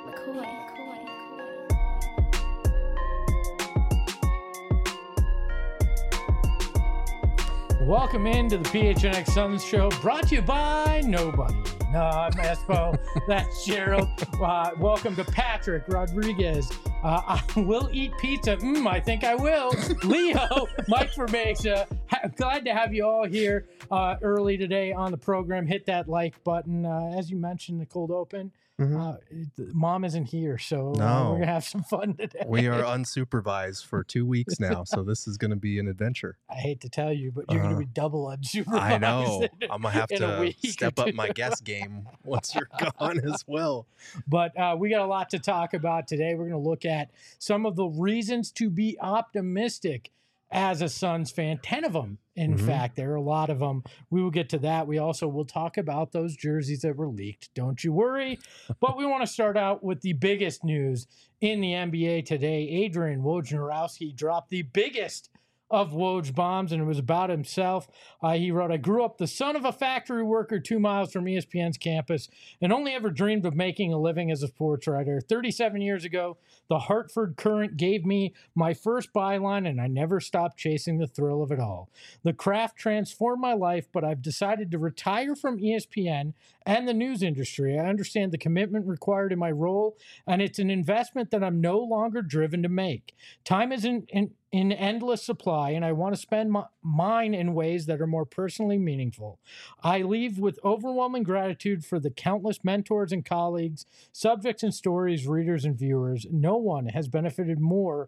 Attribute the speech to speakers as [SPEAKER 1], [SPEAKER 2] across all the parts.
[SPEAKER 1] Welcome into the PHNX Suns show, brought to you by nobody. No, I'm Espo. That's Gerald. Welcome to Patrick Rodriguez. I will eat pizza. I think I will. Leo, Mike Formacia. Glad to have you all here early today on the program. Hit that like button. As you mentioned, the cold open. Mom isn't here, so we're going to have some fun today.
[SPEAKER 2] We are unsupervised for 2 weeks now, so this is going to be an adventure.
[SPEAKER 1] I hate to tell you, but you're going to be double unsupervised.
[SPEAKER 2] I know. I'm going to have to step up my guest game once you're gone as well.
[SPEAKER 1] But we got a lot to talk about today. We're going to look at some of the reasons to be optimistic as a Suns fan. 10 of them, in fact. There are a lot of them. We will get to that. We also will talk about those jerseys that were leaked. Don't you worry. But we want to start out with the biggest news in the NBA today. Adrian Wojnarowski dropped the biggest of Woj bombs, and it was about himself. He wrote, "I grew up the son of a factory worker 2 miles from ESPN's campus and only ever dreamed of making a living as a sports writer. 37 years ago, the Hartford Courant gave me my first byline, and I never stopped chasing the thrill of it all. The craft transformed my life, but I've decided to retire from ESPN and the news industry. I understand the commitment required in my role, and it's an investment that I'm no longer driven to make. Time is in endless supply, and I want to spend mine in ways that are more personally meaningful. I leave with overwhelming gratitude for the countless mentors and colleagues, subjects and stories, readers and viewers. No one has benefited more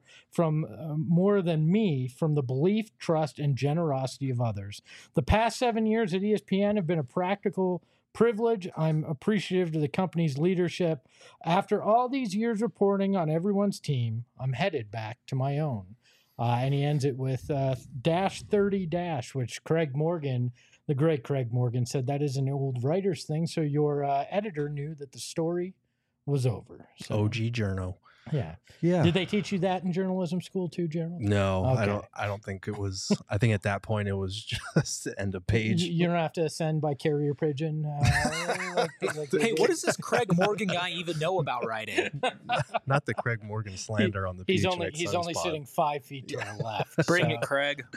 [SPEAKER 1] than me from the belief, trust, and generosity of others. The past 7 years at ESPN have been a practical privilege. I'm appreciative to the company's leadership. After all these years reporting on everyone's team, I'm headed back to my own." And he ends it with -30, which Craig Morgan, the great Craig Morgan, said that is an old writer's thing. So your editor knew that the story was over. So,
[SPEAKER 2] OG Journo.
[SPEAKER 1] Yeah.
[SPEAKER 2] Yeah.
[SPEAKER 1] Did they teach you that in journalism school too, Gerald?
[SPEAKER 2] No,
[SPEAKER 1] Okay.
[SPEAKER 2] I don't think it was. I think at that point it was just end of page.
[SPEAKER 1] You don't have to send by carrier pigeon.
[SPEAKER 3] Hey, what does this Craig Morgan guy even know about writing?
[SPEAKER 2] Not the Craig Morgan slander on the
[SPEAKER 1] He's
[SPEAKER 2] PHNX
[SPEAKER 1] only
[SPEAKER 2] Suns pod.
[SPEAKER 1] sitting 5 feet to the left.
[SPEAKER 3] Bring it, Craig.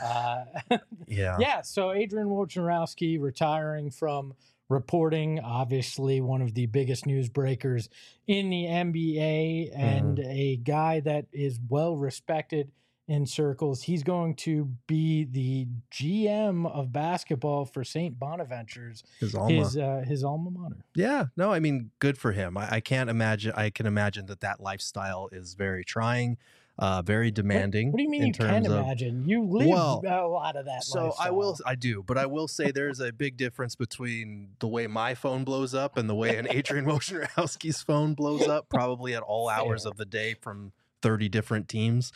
[SPEAKER 2] Yeah.
[SPEAKER 1] So Adrian Wojnarowski retiring from reporting, obviously one of the biggest news breakers in the NBA and a guy that is well respected in circles. He's going to be the GM of basketball for St. Bonaventure's, his alma mater.
[SPEAKER 2] Yeah, no, I mean, good for him. I can't imagine. I can imagine that lifestyle is very trying, very demanding.
[SPEAKER 1] What do you mean you can imagine? You live a lot of that lifestyle.
[SPEAKER 2] I do, but I will say there's a big difference between the way my phone blows up and the way an Adrian Wojnarowski's phone blows up, probably at all hours of the day from 30 different teams.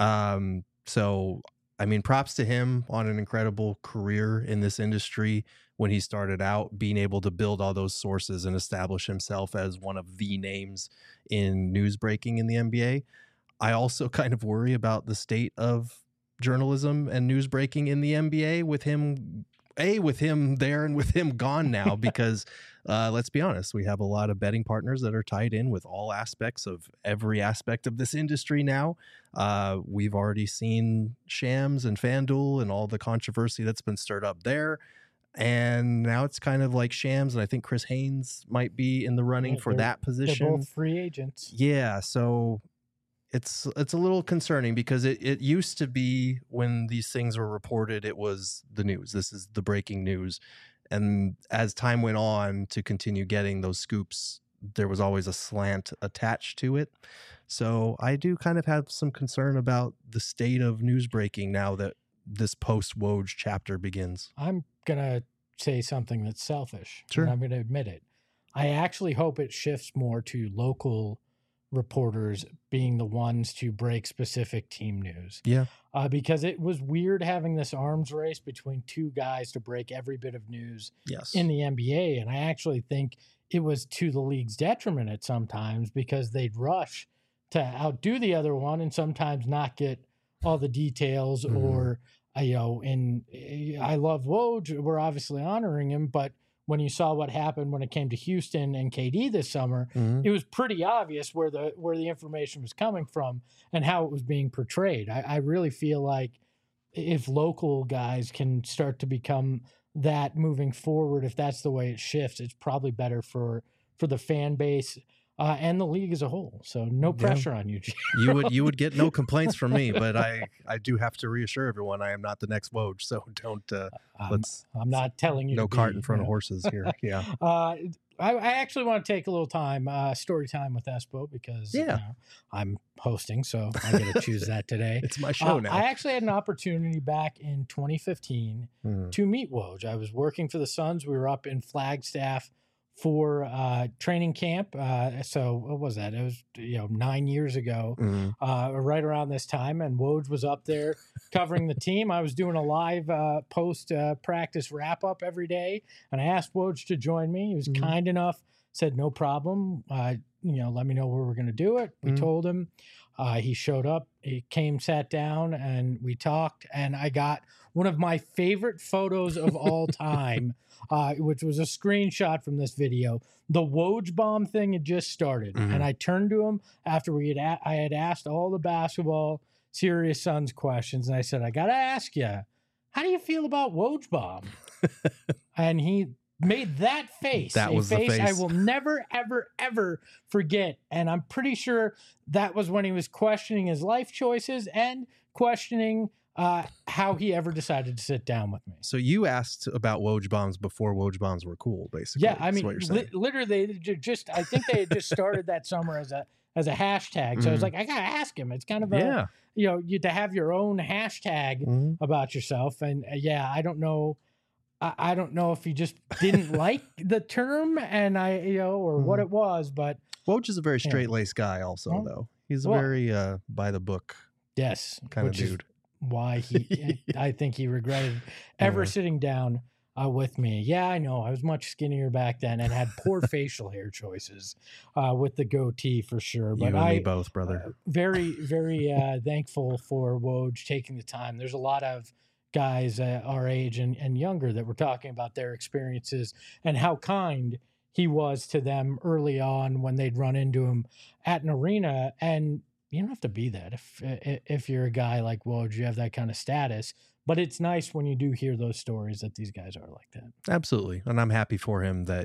[SPEAKER 2] So, I mean, props to him on an incredible career in this industry. When he started out, being able to build all those sources and establish himself as one of the names in news breaking in the NBA. I also kind of worry about the state of journalism and news breaking in the NBA with him there and with him gone now, because let's be honest, we have a lot of betting partners that are tied in with all aspects of every aspect of this industry now. We've already seen Shams and FanDuel and all the controversy that's been stirred up there. And now it's kind of like Shams, and I think Chris Haynes might be in the running for that position.
[SPEAKER 1] They're both free agents.
[SPEAKER 2] Yeah, so it's a little concerning, because it used to be when these things were reported, it was the news. This is the breaking news. And as time went on to continue getting those scoops, there was always a slant attached to it. So I do kind of have some concern about the state of news breaking now that this post-Woj chapter begins.
[SPEAKER 1] I'm going to say something that's selfish.
[SPEAKER 2] Sure.
[SPEAKER 1] And I'm going to admit it. I actually hope it shifts more to local reporters being the ones to break specific team news.
[SPEAKER 2] Yeah.
[SPEAKER 1] Because it was weird having this arms race between two guys to break every bit of news in the NBA. And I actually think it was to the league's detriment at sometimes, because they'd rush to outdo the other one and sometimes not get all the details or, and I love Woj. We're obviously honoring him, but when you saw what happened when it came to Houston and KD this summer, it was pretty obvious where the information was coming from and how it was being portrayed. I really feel like if local guys can start to become that moving forward, if that's the way it shifts, it's probably better for the fan base and the league as a whole. So no pressure on you, G.
[SPEAKER 2] You would get no complaints from me, but I do have to reassure everyone I am not the next Woj, so don't
[SPEAKER 1] I'm not telling you
[SPEAKER 2] no
[SPEAKER 1] to
[SPEAKER 2] cart
[SPEAKER 1] be,
[SPEAKER 2] in front of horses here. Yeah.
[SPEAKER 1] I actually want to take a little time, story time with Espo, because you know, I'm hosting, so I get to choose that today.
[SPEAKER 2] It's my show now.
[SPEAKER 1] I actually had an opportunity back in 2015 to meet Woj. I was working for the Suns. We were up in Flagstaff for training camp. So what was that? It was 9 years ago, right around this time. And Woj was up there covering the team. I was doing a live post practice wrap up every day, and I asked Woj to join me. He was kind enough, said no problem. Let me know where we're going to do it. We told him. He showed up. He came, sat down, and we talked. And I got one of my favorite photos of all time. Which was a screenshot from this video. The Woj bomb thing had just started, and I turned to him after I had asked all the basketball serious Suns questions, and I said, "I gotta ask you, how do you feel about Woj bomb?" And he made that face.
[SPEAKER 2] That was the face
[SPEAKER 1] I will never, ever, ever forget. And I'm pretty sure that was when he was questioning his life choices and questioning how he ever decided to sit down with me.
[SPEAKER 2] So you asked about Woj bombs before Woj bombs were cool, basically.
[SPEAKER 1] Yeah, I mean, literally, I think they had just started that summer as a hashtag. So I was like, I gotta ask him. It's kind of you to have your own hashtag about yourself. And I don't know. I don't know if he just didn't like the term or what it was, but
[SPEAKER 2] Woj is a very straight-laced guy also, though. He's a very by the book kind of dude.
[SPEAKER 1] Why I think he regretted ever sitting down with me. Yeah, I know. I was much skinnier back then and had poor facial hair choices with the goatee for sure. But
[SPEAKER 2] you and me both, brother.
[SPEAKER 1] Very, very thankful for Woj taking the time. There's a lot of guys our age and younger that were talking about their experiences and how kind he was to them early on when they'd run into him at an arena. And you don't have to be that if you're a guy like Woj, you have that kind of status. But it's nice when you do hear those stories that these guys are like that.
[SPEAKER 2] Absolutely. And I'm happy for him that,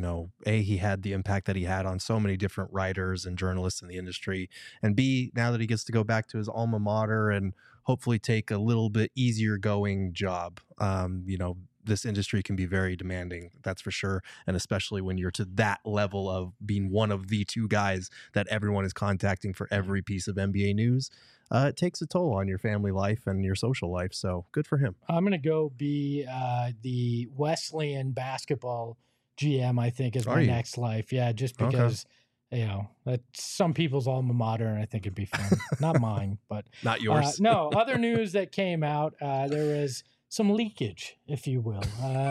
[SPEAKER 2] he had the impact that he had on so many different writers and journalists in the industry. And B, now that he gets to go back to his alma mater and hopefully take a little bit easier going job, this industry can be very demanding, that's for sure. And especially when you're to that level of being one of the two guys that everyone is contacting for every piece of NBA news, it takes a toll on your family life and your social life. So good for him.
[SPEAKER 1] I'm going to go be the Wesleyan basketball GM, I think, is my next life. Yeah, just because, that's some people's alma mater, and I think it'd be fun. Not mine, but.
[SPEAKER 2] Not yours.
[SPEAKER 1] No, other news that came out, there was some leakage, if you will.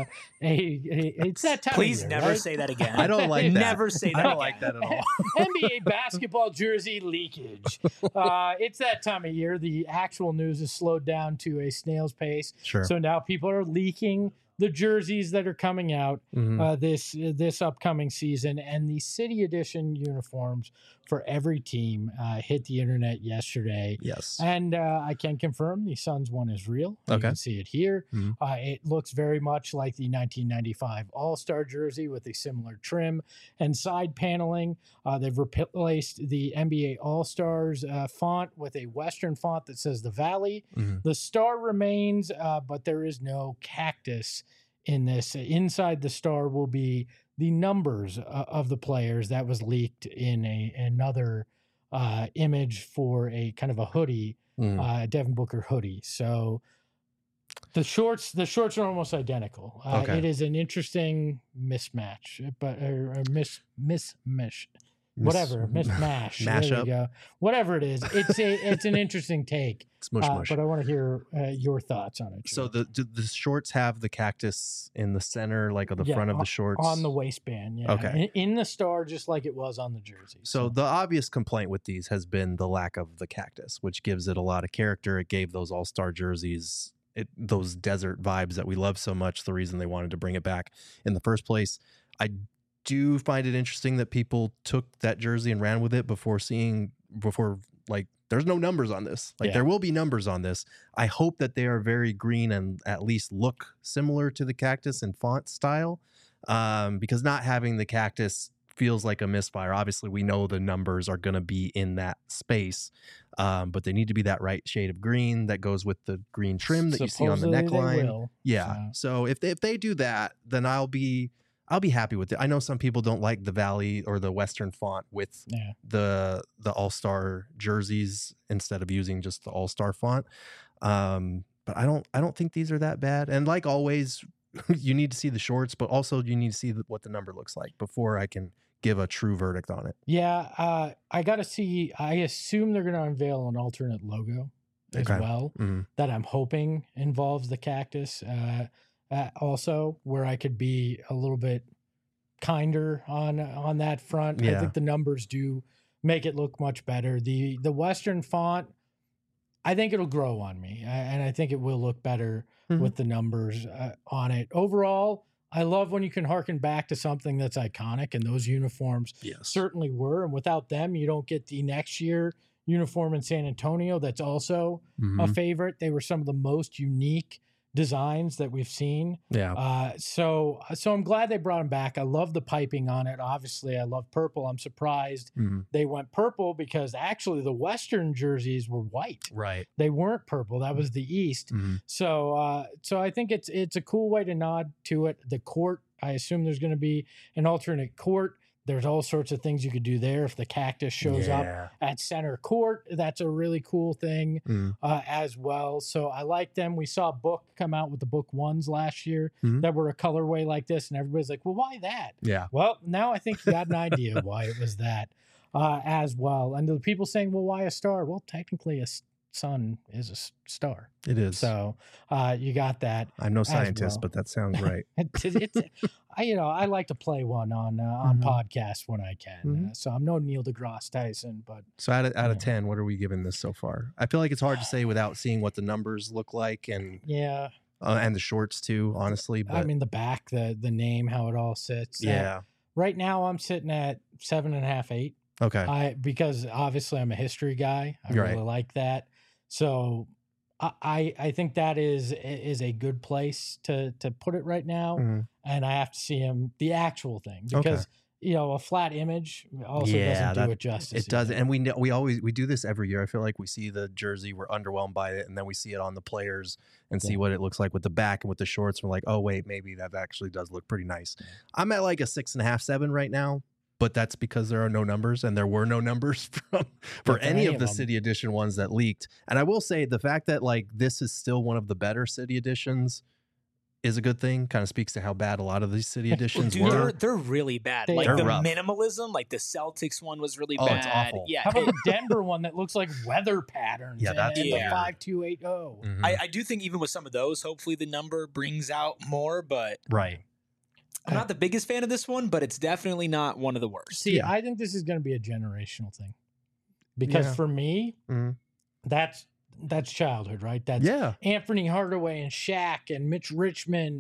[SPEAKER 1] It's that time
[SPEAKER 3] Please
[SPEAKER 1] of year,
[SPEAKER 3] never
[SPEAKER 1] right?
[SPEAKER 3] say that again.
[SPEAKER 2] I don't like that.
[SPEAKER 3] Never say that
[SPEAKER 2] I don't
[SPEAKER 3] again.
[SPEAKER 2] like that at all.
[SPEAKER 1] NBA basketball jersey leakage. It's that time of year. The actual news is slowed down to a snail's pace.
[SPEAKER 2] Sure.
[SPEAKER 1] So now people are leaking the jerseys that are coming out this upcoming season, and the city edition uniforms for every team hit the internet yesterday.
[SPEAKER 2] Yes.
[SPEAKER 1] And I can confirm the Suns one is real. You can see it here. It looks very much like the 1995 All-Star jersey with a similar trim and side paneling. They've replaced the NBA All-Stars font with a Western font that says the Valley. The star remains, but there is no cactus in this. Inside the star will be the numbers of the players. That was leaked in another image for a kind of a hoodie, Devin Booker hoodie. So the shorts are almost identical. It is an interesting mismatch, but mismatch. Whatever, mismatch. There we go. Whatever it is, it's an interesting take.
[SPEAKER 2] It's mush.
[SPEAKER 1] But I want to hear your thoughts on it.
[SPEAKER 2] So the shorts have the cactus in the center, like on the front of the shorts?
[SPEAKER 1] On the waistband, yeah.
[SPEAKER 2] Okay.
[SPEAKER 1] In the star, just like it was on the jersey.
[SPEAKER 2] So the obvious complaint with these has been the lack of the cactus, which gives it a lot of character. It gave those all-star jerseys those desert vibes that we love so much, the reason they wanted to bring it back in the first place. I do find it interesting that people took that jersey and ran with it before like there's no numbers on this. Like there will be numbers on this. I hope that they are very green and at least look similar to the cactus in font style, because not having the cactus feels like a misfire. Obviously, we know the numbers are going to be in that space, but they need to be that right shade of green that goes with the green trim that you see on the neckline. So if they do that, then I'll be happy with it. I know some people don't like the Valley or the Western font with the All-Star jerseys instead of using just the All-Star font. But I don't think these are that bad. And like always, you need to see the shorts, but also you need to see what the number looks like before I can give a true verdict on it.
[SPEAKER 1] Yeah, I got to see. I assume they're going to unveil an alternate logo as well that I'm hoping involves the cactus. Also, where I could be a little bit kinder on that front. I think the numbers do make it look much better. The Western font, I think it'll grow on me, and I think it will look better with the numbers on it. Overall, I love when you can harken back to something that's iconic, and those uniforms certainly were. And without them, you don't get the next year uniform in San Antonio that's also a favorite. They were some of the most unique designs that we've seen. So I'm glad they brought them back. I love the piping on it. Obviously, I love purple. I'm surprised they went purple because actually the Western jerseys were white.
[SPEAKER 2] Right.
[SPEAKER 1] They weren't purple. That was the East. So I think it's a cool way to nod to it. The court, I assume there's going to be an alternate court. There's all sorts of things you could do there. If the cactus shows up at center court, that's a really cool thing as well. So I like them. We saw Book come out with the Book ones last year that were a colorway like this, and everybody's like, well, why that? Well, now I think you got an idea why it was that as well. And the people saying, well, why a star? Well, technically a sun is a star.
[SPEAKER 2] It is.
[SPEAKER 1] So you got that.
[SPEAKER 2] I'm no scientist, but that sounds right.
[SPEAKER 1] I like to play one on podcasts when I can. So I'm no Neil deGrasse Tyson, but
[SPEAKER 2] so out of 10, what are we giving this so far? I feel like it's hard to say without seeing what the numbers look like and and the shorts too, honestly. But
[SPEAKER 1] I mean the back, the name, how it all sits. Right now I'm sitting at 7.5, 8.
[SPEAKER 2] Okay.
[SPEAKER 1] Because obviously I'm a history guy. I really like that. So I think that is a good place to put it right now. And I have to see the actual thing because a flat image also doesn't do it justice.
[SPEAKER 2] It doesn't. And we do this every year. I feel like we see the jersey, we're underwhelmed by it, and then we see it on the players and see what it looks like with the back and with the shorts. We're like, oh wait, maybe that actually does look pretty nice. I'm at like a 6.5, 7 right now. But that's because there are no numbers, and there were no numbers for any of the City Edition ones that leaked. And I will say the fact that like this is still one of the better City Editions is a good thing. Kind of speaks to how bad a lot of these City Editions were.
[SPEAKER 3] They're really bad.
[SPEAKER 1] They're
[SPEAKER 3] the
[SPEAKER 2] rough.
[SPEAKER 3] Minimalism, like the Celtics one was really bad.
[SPEAKER 2] It's awful.
[SPEAKER 3] Yeah.
[SPEAKER 1] How about the Denver one that looks like weather patterns?
[SPEAKER 2] That's
[SPEAKER 1] the
[SPEAKER 2] weird.
[SPEAKER 1] 5280.
[SPEAKER 3] I do think even with some of those, hopefully the number brings out more, but I'm not the biggest fan of this one, but it's definitely not one of the worst.
[SPEAKER 1] See, I think this is going to be a generational thing because for me, that's childhood, right? That's Anthony Hardaway and Shaq and Mitch Richmond,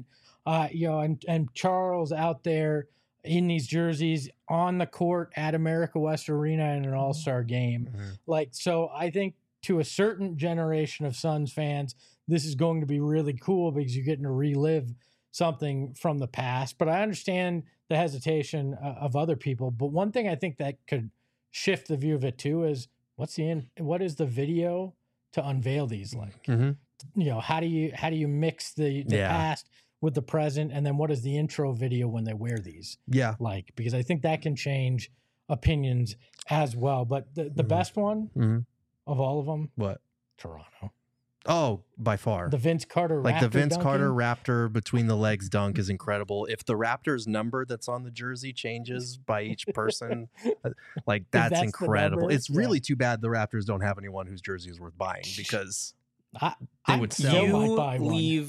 [SPEAKER 1] and Charles out there in these jerseys on the court at America West Arena in an All-Star game. So I think to a certain generation of Suns fans, this is going to be really cool because you're getting to relive something from the past. But I understand the hesitation of other people. But one thing I think that could shift the view of it too is what is the video to unveil these like? How do you mix the past with the present, and then what is the intro video when they wear these? Like, because I think that can change opinions as well. But the best one of all of them,
[SPEAKER 2] what?
[SPEAKER 1] Toronto.
[SPEAKER 2] Oh, by far.
[SPEAKER 1] The Vince Carter Raptor
[SPEAKER 2] the Vince
[SPEAKER 1] dunking?
[SPEAKER 2] Carter Raptor between the legs dunk is incredible. If the Raptor's number that's on the jersey changes by each person, like that's incredible. It's really too bad the Raptors don't have anyone whose jersey is worth buying because they would sell.
[SPEAKER 3] You leave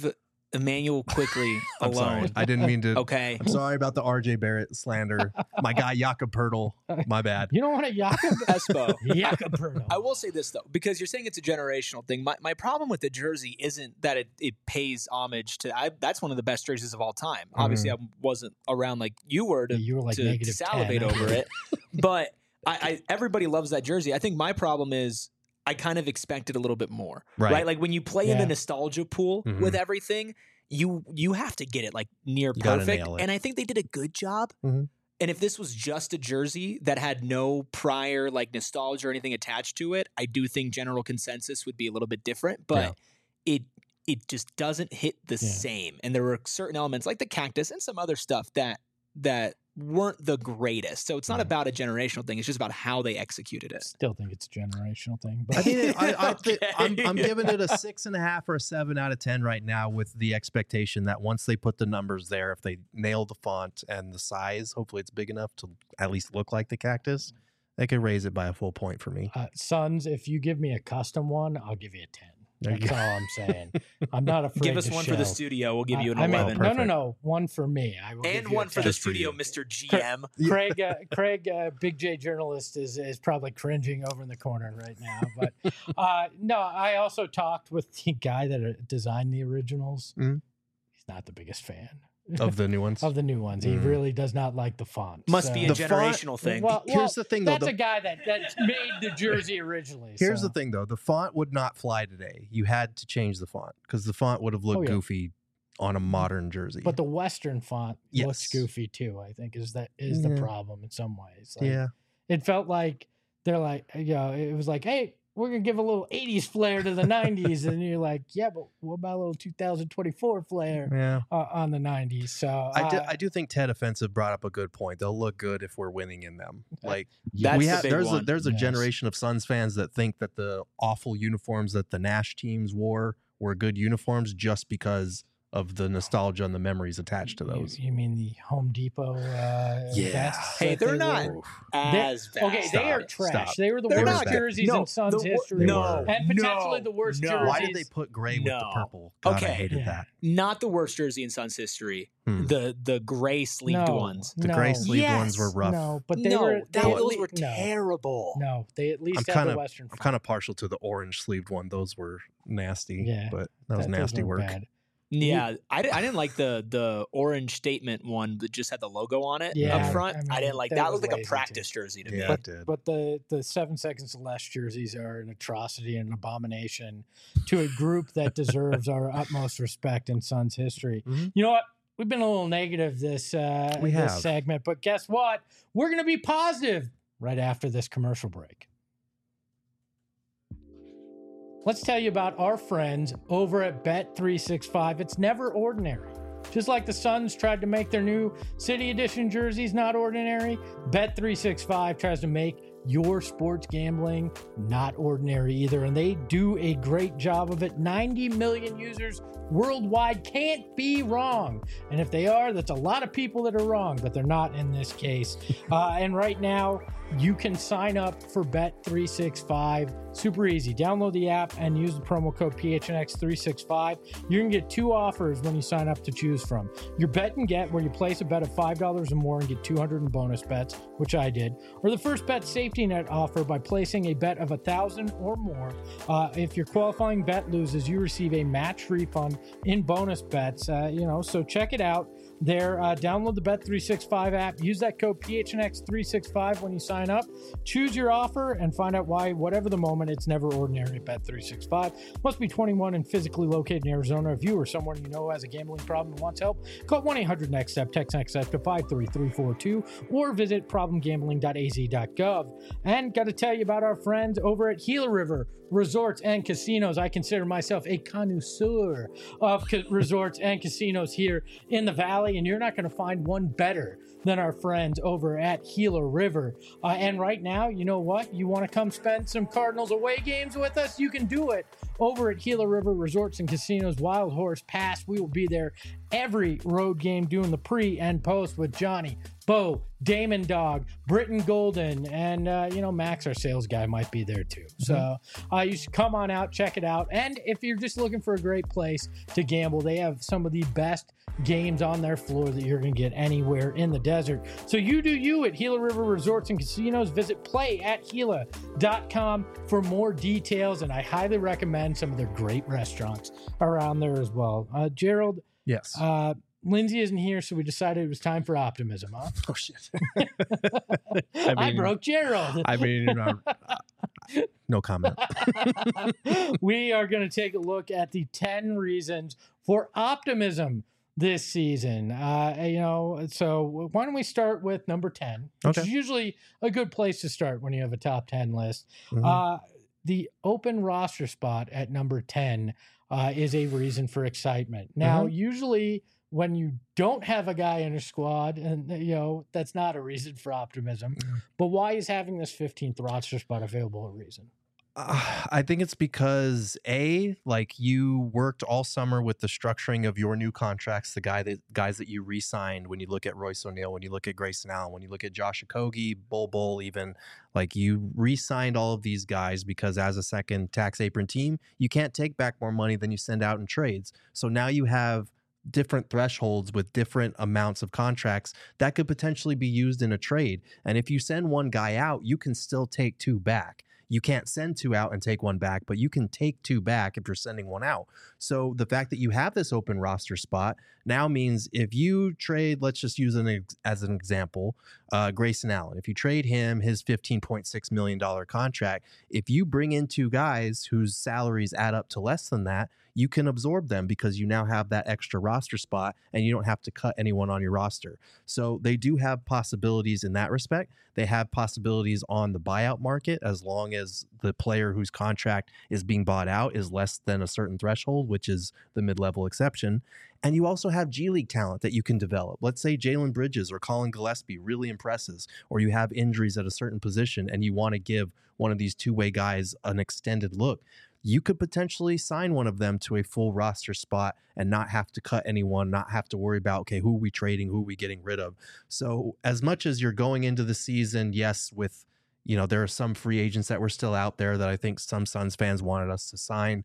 [SPEAKER 3] Emmanuel Quickly
[SPEAKER 2] I'm
[SPEAKER 3] alone.
[SPEAKER 2] sorry. I didn't mean to.
[SPEAKER 3] Okay.
[SPEAKER 2] I'm sorry about the RJ Barrett slander. My guy Jakob Poeltl. My bad.
[SPEAKER 1] You don't want a Jakob
[SPEAKER 3] Espo.
[SPEAKER 1] Jakob Poeltl.
[SPEAKER 3] I will say this though, because you're saying it's a generational thing. My problem with the jersey isn't that it pays homage to. That's one of the best jerseys of all time. Obviously, I wasn't around like you were to,
[SPEAKER 1] you were like
[SPEAKER 3] to
[SPEAKER 1] negative
[SPEAKER 3] salivate
[SPEAKER 1] 10.
[SPEAKER 3] over it, but I everybody loves that jersey. I think my problem is I kind of expected a little bit more, right? Like when you play in the nostalgia pool with everything, you have to get it like near perfect, and I think they did a good job. And if this was just a jersey that had no prior like nostalgia or anything attached to it, I do think general consensus would be a little bit different. But it just doesn't hit the same. And there were certain elements like the cactus and some other stuff that weren't the greatest. So it's not about a generational thing. It's just about how they executed it.
[SPEAKER 1] Still think it's a generational thing. But
[SPEAKER 2] I think I'm giving it a 6.5 or a 7 out of 10 right now, with the expectation that once they put the numbers there, if they nail the font and the size, hopefully it's big enough to at least look like the cactus, they could raise it by a full point for me.
[SPEAKER 1] Suns, if you give me a custom one, I'll give you a 10. That's all I'm saying. I'm not afraid.
[SPEAKER 3] Give us
[SPEAKER 1] to
[SPEAKER 3] one
[SPEAKER 1] show.
[SPEAKER 3] for the studio. We'll give you an 11.
[SPEAKER 1] No. One for me. I will
[SPEAKER 3] and
[SPEAKER 1] give you
[SPEAKER 3] one for the
[SPEAKER 2] Just for
[SPEAKER 3] studio,
[SPEAKER 2] you.
[SPEAKER 3] Mr. GM.
[SPEAKER 1] Craig, Big J journalist is probably cringing over in the corner right now. But no, I also talked with the guy that designed the originals. He's not the biggest fan.
[SPEAKER 2] Of the new ones?
[SPEAKER 1] Of the new ones. He really does not like the font.
[SPEAKER 3] Must be a generational thing.
[SPEAKER 1] Well,
[SPEAKER 2] here's the thing, though.
[SPEAKER 1] That's a guy that made the jersey originally.
[SPEAKER 2] Here's the thing, though. The font would not fly today. You had to change the font because the font would have looked goofy on a modern jersey.
[SPEAKER 1] But the Western font looks goofy, too, I think, is the problem in some ways. Like, it felt like they're like, it was like, hey, we're going to give a little 80s flair to the 90s. And you're like, yeah, but what about a little 2024 flair on the 90s? So
[SPEAKER 2] I do think Ted Offensive brought up a good point. They'll look good if we're winning in them. Like there's a generation of Suns fans that think that the awful uniforms that the Nash teams wore were good uniforms just because of the nostalgia and the memories attached to those.
[SPEAKER 1] You mean the Home Depot vests?
[SPEAKER 3] Hey, they're not as bad.
[SPEAKER 1] Okay, they are trash. They were the worst jerseys in Suns history. And potentially the worst jerseys.
[SPEAKER 2] Why did they put gray with the purple? God, I hated that.
[SPEAKER 3] Not the worst jersey in Suns history. The gray sleeved ones.
[SPEAKER 2] The gray sleeved ones were rough.
[SPEAKER 1] No, but
[SPEAKER 3] those were terrible.
[SPEAKER 1] No, they at least had the Western.
[SPEAKER 2] I'm kind of partial to the orange sleeved one. Those were nasty. But that was nasty work.
[SPEAKER 3] Bad. Yeah, I didn't like the orange statement one that just had the logo on it up front. I didn't like that. It looked like a practice jersey to me.
[SPEAKER 2] It did.
[SPEAKER 1] But the 7 seconds or less jerseys are an atrocity and an abomination to a group that deserves our utmost respect in Suns history. You know what? We've been a little negative this segment, but guess what? We're going to be positive right after this commercial break. Let's tell you about our friends over at Bet365. It's never ordinary. Just like the Suns tried to make their new City Edition jerseys not ordinary, Bet365 tries to make your sports gambling not ordinary either. And they do a great job of it. 90 million users worldwide, can't be wrong. And if they are, that's a lot of people that are wrong, but they're not in this case. And right now, you can sign up for Bet365. Super easy. Download the app and use the promo code PHNX365. You're going to get 2 offers when you sign up to choose from. Your bet and get, where you place a bet of $5 or more and get 200 in bonus bets, which I did. Or the first bet safety net offer by placing a bet of $1,000 or more. If your qualifying bet loses, you receive a match refund in bonus bets. So check it out. Download the Bet365 app. Use that code PHNX365 when you sign up. Choose your offer and find out why, whatever the moment, it's never ordinary at Bet365. Must be 21 and physically located in Arizona. If you or someone you know has a gambling problem and wants help, call 1-800-NEXT-STEP, text NEXT-STEP to 53342, or visit problemgambling.az.gov. And got to tell you about our friends over at Gila River Resorts and Casinos. I consider myself a connoisseur of resorts and casinos here in the Valley, and you're not going to find one better than our friends over at Gila River. And right now, you know what? You want to come spend some Cardinals away games with us? You can do it over at Gila River Resorts and Casinos Wild Horse Pass. We will be there every road game doing the pre and post with Johnny, Bo, Damon Dog, Britton Golden, and Max, our sales guy, might be there too. So you should come on out, check it out. And if you're just looking for a great place to gamble, they have some of the best games on their floor that you're going to get anywhere in the desert. So you do you at Gila River Resorts and Casinos. Visit play@Gila.com for more details, and I highly recommend some of their great restaurants around there as well. Gerald?
[SPEAKER 2] Yes.
[SPEAKER 1] Lindsay isn't here, so we decided it was time for optimism, huh?
[SPEAKER 2] Oh, shit.
[SPEAKER 1] I broke Gerald.
[SPEAKER 2] No comment.
[SPEAKER 1] We are going to take a look at the 10 reasons for optimism this season. So why don't we start with number 10, which is usually a good place to start when you have a top 10 list. The open roster spot at number 10 is a reason for excitement. Now, usually when you don't have a guy in a squad, and that's not a reason for optimism. But why is having this 15th roster spot available a reason?
[SPEAKER 2] I think it's because you worked all summer with the structuring of your new contracts, guys that you re-signed. When you look at Royce O'Neal, when you look at Grayson Allen, when you look at Josh Okogie, Bull, even you re-signed all of these guys because as a second tax apron team, you can't take back more money than you send out in trades. So now you have different thresholds with different amounts of contracts that could potentially be used in a trade. And if you send one guy out, you can still take two back. You can't send two out and take one back, but you can take two back if you're sending one out. So the fact that you have this open roster spot now means if you trade, let's just use as an example, Grayson Allen. If you trade him his $15.6 million contract, if you bring in two guys whose salaries add up to less than that, you can absorb them because you now have that extra roster spot and you don't have to cut anyone on your roster. So they do have possibilities in that respect. They have possibilities on the buyout market as long as the player whose contract is being bought out is less than a certain threshold, which is the mid-level exception. And you also have G League talent that you can develop. Let's say Jalen Bridges or Colin Gillespie really impresses, or you have injuries at a certain position and you want to give one of these two-way guys an extended look. You could potentially sign one of them to a full roster spot and not have to cut anyone, not have to worry about, okay, who are we trading, who are we getting rid of? So as much as you're going into the season, yes, with, there are some free agents that were still out there that I think some Suns fans wanted us to sign.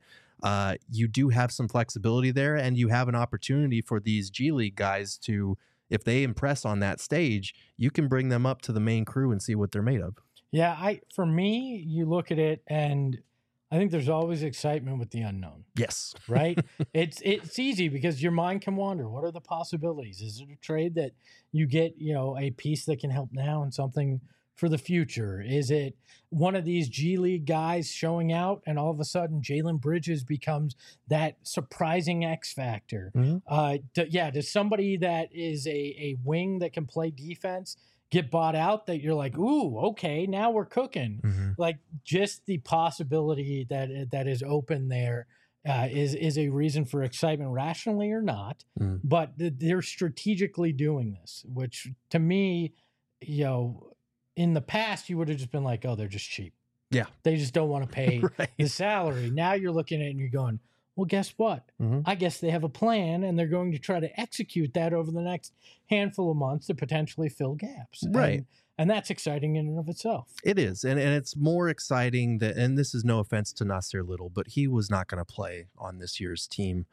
[SPEAKER 2] You do have some flexibility there, and you have an opportunity for these G League guys to, if they impress on that stage, you can bring them up to the main crew and see what they're made of.
[SPEAKER 1] Yeah, for me, you look at it and I think there's always excitement with the unknown.
[SPEAKER 2] Yes.
[SPEAKER 1] Right? It's easy because your mind can wander. What are the possibilities? Is it a trade that you get, a piece that can help now and something for the future? Is it one of these G League guys showing out and all of a sudden Jalen Bridges becomes that surprising X factor? Does somebody that is a wing that can play defense get bought out that you're like, ooh, okay, now we're cooking? Like just the possibility that is open there is a reason for excitement, rationally or not. But they're strategically doing this, which to me, in the past, you would have just been like, oh, they're just cheap.
[SPEAKER 2] Yeah.
[SPEAKER 1] They just don't want to pay the salary. Now you're looking at it and you're going, well, guess what? I guess they have a plan and they're going to try to execute that over the next handful of months to potentially fill gaps.
[SPEAKER 2] Right.
[SPEAKER 1] And that's exciting in and of itself.
[SPEAKER 2] It is. And it's more exciting that, and this is no offense to Nasir Little, but he was not going to play on this year's team.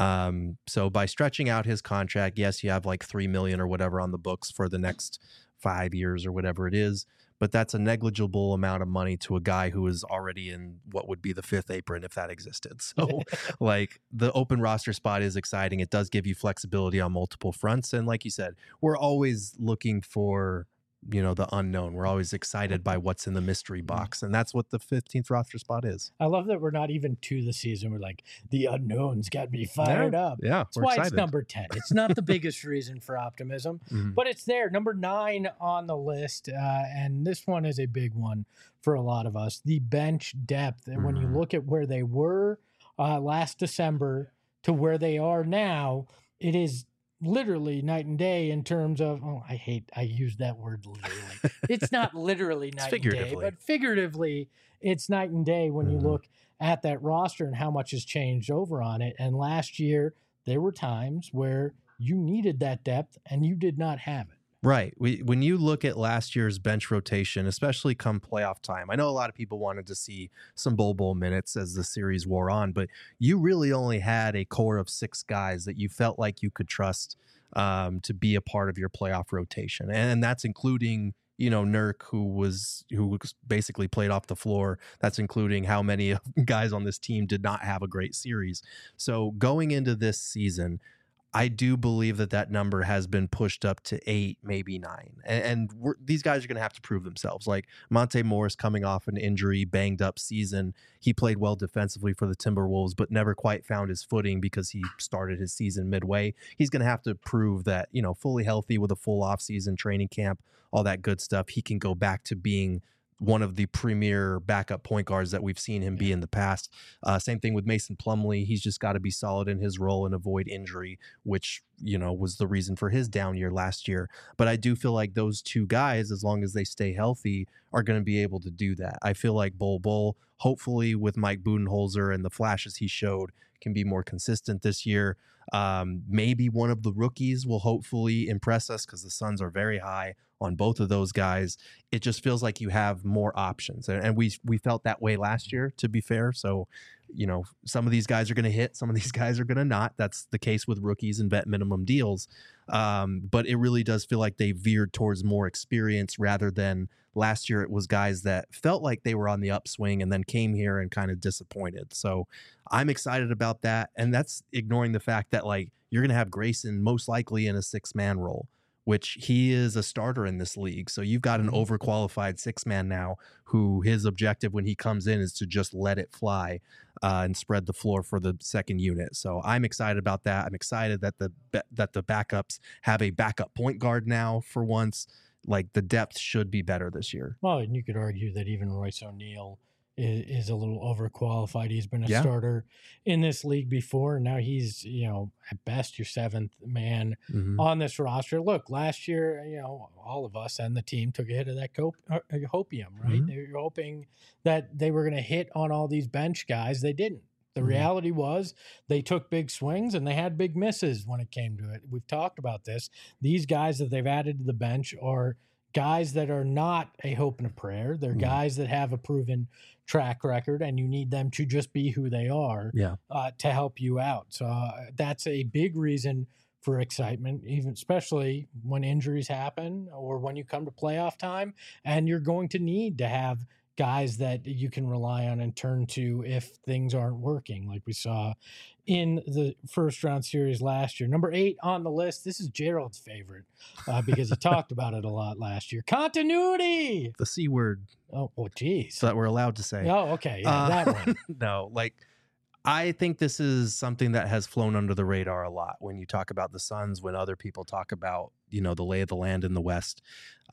[SPEAKER 2] So by stretching out his contract, yes, you have like $3 million or whatever on the books for the next 5 years or whatever it is, but that's a negligible amount of money to a guy who is already in what would be the fifth apron if that existed. So the open roster spot is exciting. It does give you flexibility on multiple fronts. And like you said, we're always looking for, the unknown. We're always excited by what's in the mystery box. And that's what the 15th roster spot is.
[SPEAKER 1] I love that we're not even to the season. We're like, the unknown's got me fired up.
[SPEAKER 2] Yeah.
[SPEAKER 1] That's why it's number 10. It's not the biggest reason for optimism, but it's there. Number 9 on the list. And this one is a big one for a lot of us. The bench depth. And when you look at where they were last December to where they are now, it is literally night and day in terms of, I use that word literally. It's not literally night and day, but figuratively, it's night and day when you look at that roster and how much has changed over on it. And last year, there were times where you needed that depth and you did not have it.
[SPEAKER 2] Right. When you look at last year's bench rotation, especially come playoff time, I know a lot of people wanted to see some Bol minutes as the series wore on, but you really only had a core of 6 guys that you felt like you could trust to be a part of your playoff rotation. And that's including, Nurk, who basically played off the floor. That's including how many guys on this team did not have a great series. So going into this season, I do believe that number has been pushed up to 8, maybe 9. And these guys are going to have to prove themselves. Like Monte Morris coming off an injury, banged up season. He played well defensively for the Timberwolves, but never quite found his footing because he started his season midway. He's going to have to prove that, fully healthy with a full offseason training camp, all that good stuff, he can go back to being one of the premier backup point guards that we've seen him be in the past. Same thing with Mason Plumlee. He's just got to be solid in his role and avoid injury, which, was the reason for his down year last year. But I do feel like those 2 guys, as long as they stay healthy, are going to be able to do that. I feel like Bol, hopefully with Mike Budenholzer and the flashes he showed, can be more consistent this year. Maybe one of the rookies will hopefully impress us because the Suns are very high on both of those guys. It just feels like you have more options. And we felt that way last year, to be fair. So, some of these guys are going to hit, some of these guys are going to not. That's the case with rookies and vet minimum deals. But it really does feel like they veered towards more experience rather than last year. It was guys that felt like they were on the upswing and then came here and kind of disappointed. So I'm excited about that. And that's ignoring the fact that you're going to have Grayson most likely in a 6-man role, which he is a starter in this league. So you've got an overqualified 6-man now who his objective when he comes in is to just let it fly and spread the floor for the second unit. So I'm excited about that. I'm excited that the backups have a backup point guard now for once. The depth should be better this year.
[SPEAKER 1] Well, and you could argue that even Royce O'Neal is a little overqualified. He's been a starter in this league before, and now he's, at best your 7th man on this roster. Look, last year, all of us and the team took a hit of that hopium, right? They were hoping that they were going to hit on all these bench guys. They didn't. The reality was they took big swings and they had big misses when it came to it. We've talked about this. These guys that they've added to the bench are guys that are not a hope and a prayer. They're guys that have a proven track record, and you need them to just be who they are to help you out. So that's a big reason for excitement, even especially when injuries happen or when you come to playoff time, and you're going to need to have guys that you can rely on and turn to if things aren't working, like we saw in the first round series last year. Number 8 on the list. This is Gerald's favorite because he talked about it a lot last year. Continuity.
[SPEAKER 2] The C word.
[SPEAKER 1] Oh, well, geez.
[SPEAKER 2] So that we're allowed to say.
[SPEAKER 1] Oh, okay. Yeah, that one.
[SPEAKER 2] No, I think this is something that has flown under the radar a lot when you talk about the Suns, when other people talk about, the lay of the land in the West.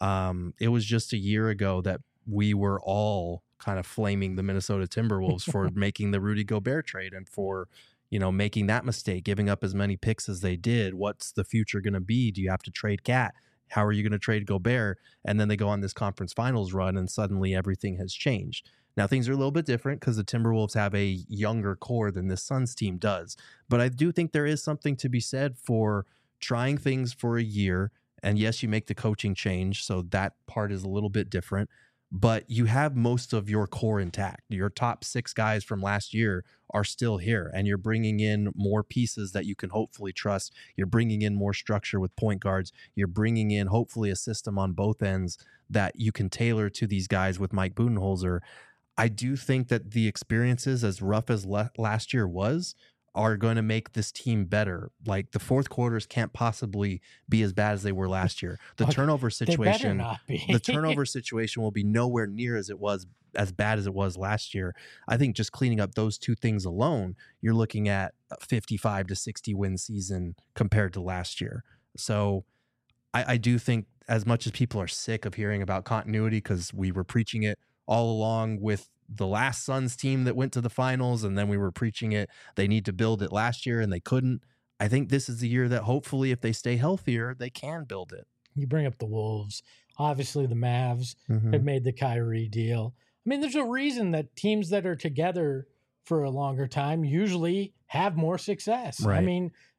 [SPEAKER 2] It was just a year ago that we were all kind of flaming the Minnesota Timberwolves for making the Rudy Gobert trade and for, making that mistake, giving up as many picks as they did. What's the future going to be? Do you have to trade Cat? How are you going to trade Gobert? And then they go on this conference finals run and suddenly everything has changed. Now things are a little bit different because the Timberwolves have a younger core than this Suns team does. But I do think there is something to be said for trying things for a year. And yes, you make the coaching change, so that part is a little bit different. But you have most of your core intact. Your top 6 guys from last year are still here, and you're bringing in more pieces that you can hopefully trust. You're bringing in more structure with point guards. You're bringing in hopefully a system on both ends that you can tailor to these guys with Mike Budenholzer. I do think that the experiences, as rough as last year was, are going to make this team better. The fourth quarters can't possibly be as bad as they were last year. The turnover situation, the turnover situation will be nowhere near as bad as it was last year. I think just cleaning up those 2 things alone, you're looking at a 55 to 60 win season compared to last year. So I do think, as much as people are sick of hearing about continuity, because we were preaching it all along with the last Suns team that went to the finals, and then we were preaching it, they need to build it last year and they couldn't. I think this is the year that hopefully if they stay healthier, they can build it.
[SPEAKER 1] You bring up the Wolves. Obviously the Mavs have made the Kyrie deal. I mean, there's a reason that teams that are together for a longer time usually have more success.
[SPEAKER 2] Right.
[SPEAKER 1] I mean,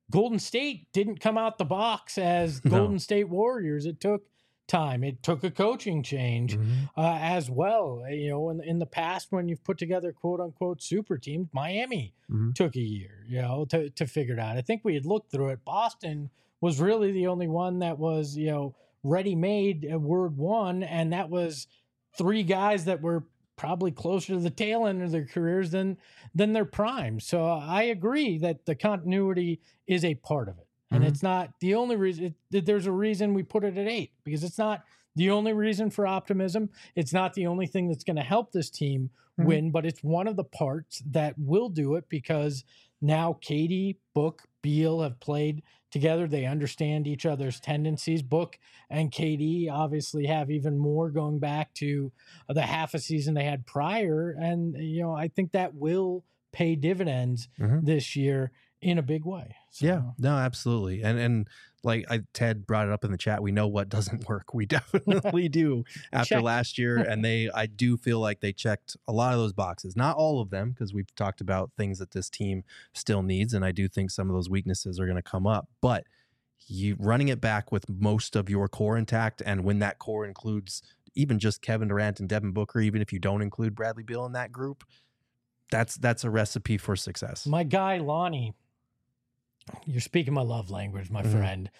[SPEAKER 1] Golden State didn't come out the box as Golden State Warriors. It took time. It took a coaching change as well. You know, in the past, when you've put together quote unquote super teams, Miami took a year, you know, to figure it out. I think we had looked through it. Boston was really the only one that was, you know, ready made word one. And that was 3 guys that were probably closer to the tail end of their careers than their prime. So I agree that the continuity is a part of it. And it's not the only reason. There's a reason we put it at 8, because it's not the only reason for optimism. It's not the only thing that's going to help this team win, but it's one of the parts that will do it, because now KD, Book, Beal have played together. They understand each other's tendencies. Book and KD obviously have even more going back to the half a season they had prior. And, you know, I think that will pay dividends this year in a big way. So.
[SPEAKER 2] Yeah, no, absolutely. And like Ted brought it up in the chat, we know what doesn't work. We definitely do after last year. And I do feel like they checked a lot of those boxes, not all of them, because we've talked about things that this team still needs. And I do think some of those weaknesses are going to come up, but you running it back with most of your core intact. And when that core includes even just Kevin Durant and Devin Booker, even if you don't include Bradley Beal in that group, that's a recipe for success.
[SPEAKER 1] My guy, Lonnie, you're speaking my love language, my friend.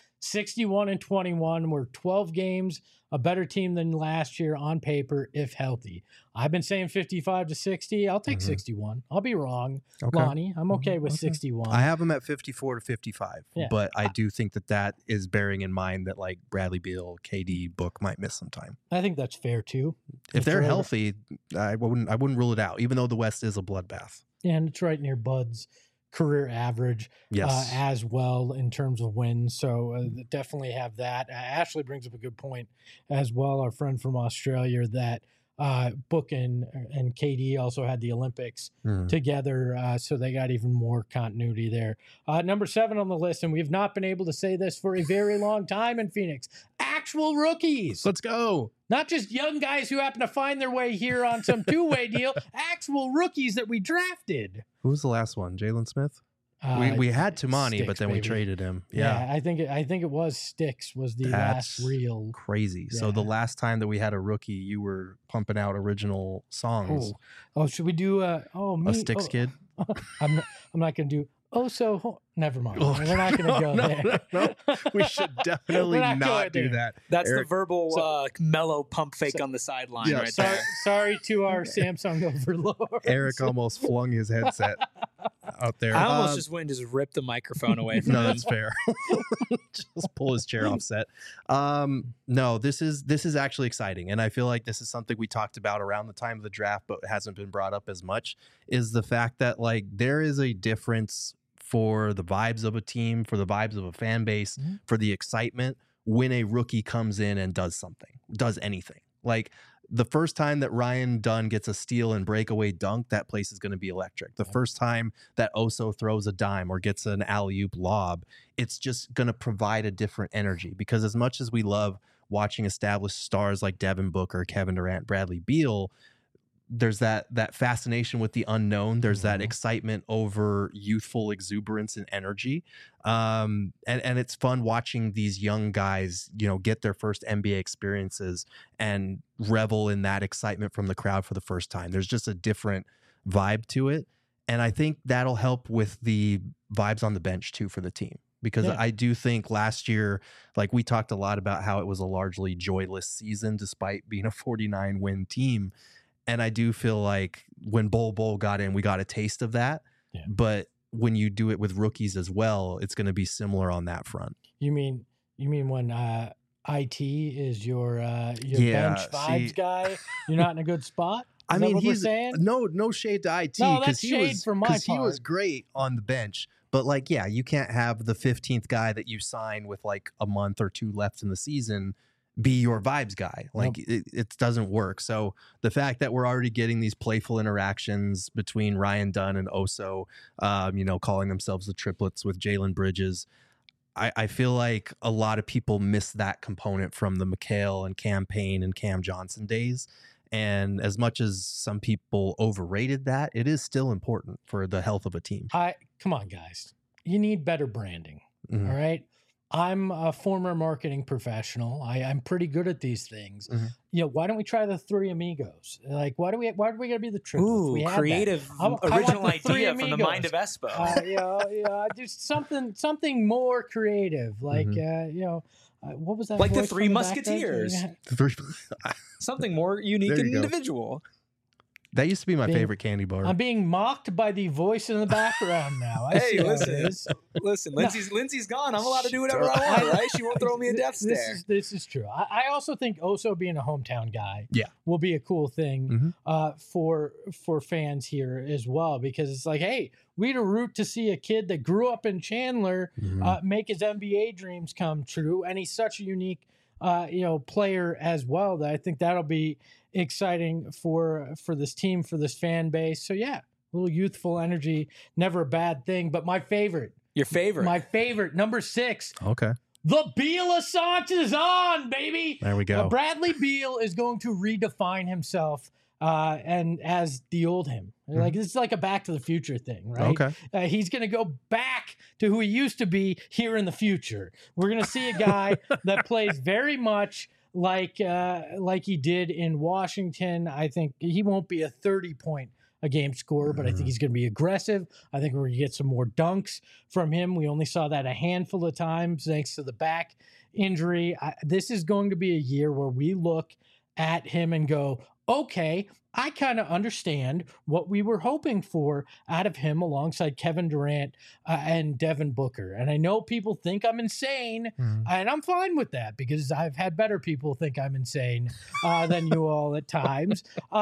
[SPEAKER 1] 61-21. We're 12 games, a better team than last year on paper, if healthy. I've been saying 55-60. I'll take 61. I'll be wrong, Lonnie. I'm okay with 61.
[SPEAKER 2] I have them at 54-55, but I do think that is bearing in mind that like Bradley Beal, KD, Book might miss some time.
[SPEAKER 1] I think that's fair too.
[SPEAKER 2] If they're healthy, I wouldn't rule it out, even though the West is a bloodbath.
[SPEAKER 1] Yeah, and it's right near Bud's career average as well in terms of wins. So definitely have that. Ashley brings up a good point as well, our friend from Australia, that Book and KD also had the Olympics together, so they got even more continuity there. Number 7 on the list, and we've not been able to say this for a very long time in Phoenix, actual rookies.
[SPEAKER 2] Let's go.
[SPEAKER 1] Not just young guys who happen to find their way here on some two-way deal, actual rookies that we drafted.
[SPEAKER 2] Who was the last one? Jalen Smith? We had Tumani, Sticks, but then we traded him. Yeah,
[SPEAKER 1] I think it was Sticks was the last real
[SPEAKER 2] crazy. Yeah. So the last time that we had a rookie, you were pumping out original songs.
[SPEAKER 1] Oh, should we do
[SPEAKER 2] a Sticks kid?
[SPEAKER 1] I'm not going to do. Never mind. We're not going to go there.
[SPEAKER 2] No. We should definitely not do that.
[SPEAKER 3] That's Eric, the verbal mellow pump fake on the sideline right there.
[SPEAKER 1] Sorry to our Samsung overlords.
[SPEAKER 2] Eric almost flung his headset out there.
[SPEAKER 3] I almost just went and just ripped the microphone away from him.
[SPEAKER 2] No, that's fair. Just pull his chair off set. No, this is actually exciting. And I feel like this is something we talked about around the time of the draft, but hasn't been brought up as much, is the fact that like there is a difference for the vibes of a team, for the vibes of a fan base, for the excitement when a rookie comes in and does anything. Like the first time that Ryan Dunn gets a steal and breakaway dunk, that place is going to be electric. The first time that Oso throws a dime or gets an alley-oop lob, it's just going to provide a different energy, because as much as we love watching established stars like Devin Booker, Kevin Durant, Bradley Beal, there's that fascination with the unknown. There's that excitement over youthful exuberance and energy. And it's fun watching these young guys, get their first NBA experiences and revel in that excitement from the crowd for the first time. There's just a different vibe to it. And I think that'll help with the vibes on the bench too for the team. Because I do think last year, like we talked a lot about how it was a largely joyless season despite being a 49-win team. And I do feel like when Bol got in, we got a taste of that. Yeah. But when you do it with rookies as well, it's going to be similar on that front.
[SPEAKER 1] You mean when IT is your bench vibes guy? You're not in a good spot?
[SPEAKER 2] I mean, he's saying? No shade to IT.
[SPEAKER 1] No, that's shade for my part.
[SPEAKER 2] He was great on the bench. But like, you can't have the 15th guy that you sign with like a month or 2 left in the season be your vibes guy. Like it doesn't work. So the fact that we're already getting these playful interactions between Ryan Dunn and Oso, calling themselves the triplets with Jalen Bridges, I feel like a lot of people miss that component from the McHale and Cam Payne and Cam Johnson days. And as much as some people overrated that, it is still important for the health of a team.
[SPEAKER 1] Come on, guys. you need better branding. All right. I'm a former marketing professional. I'm pretty good at these things. You know, why don't we try the Three Amigos? Like, why do we gotta be the truth?
[SPEAKER 3] Ooh, creative original idea from the mind of Espo.
[SPEAKER 1] Just something more creative. Like, you know, what was that?
[SPEAKER 3] Like the Three Musketeers. Something more unique and individual.
[SPEAKER 2] That used to be my favorite candy bar.
[SPEAKER 1] I'm being mocked by the voice in the background now.
[SPEAKER 3] Hey, listen. Lindsay's gone. I'm allowed to do whatever I want, right? She won't throw me a death stare.
[SPEAKER 1] This is true. I also think Oso being a hometown guy will be a cool thing for fans here as well, because it's like, hey, we'd a root to see a kid that grew up in Chandler make his NBA dreams come true, and he's such a unique player as well, that I think that'll be exciting for this team, for this fan base. So yeah, a little youthful energy, never a bad thing. But my favorite, number 6.
[SPEAKER 2] Okay.
[SPEAKER 1] The Beal Assange is on, baby.
[SPEAKER 2] There we go.
[SPEAKER 1] Bradley Beal is going to redefine himself and as the old him. Like, this is like a Back to the Future thing, right?
[SPEAKER 2] Okay.
[SPEAKER 1] He's going to go back to who he used to be here in the future. We're going to see a guy that plays very much like he did in Washington. I think he won't be a 30-point a game scorer, but I think he's going to be aggressive. I think we're going to get some more dunks from him. We only saw that a handful of times thanks to the back injury. This is going to be a year where we look at him and go, okay, I kind of understand what we were hoping for out of him alongside Kevin Durant and Devin Booker. And I know people think I'm insane, and I'm fine with that because I've had better people think I'm insane than you all at times.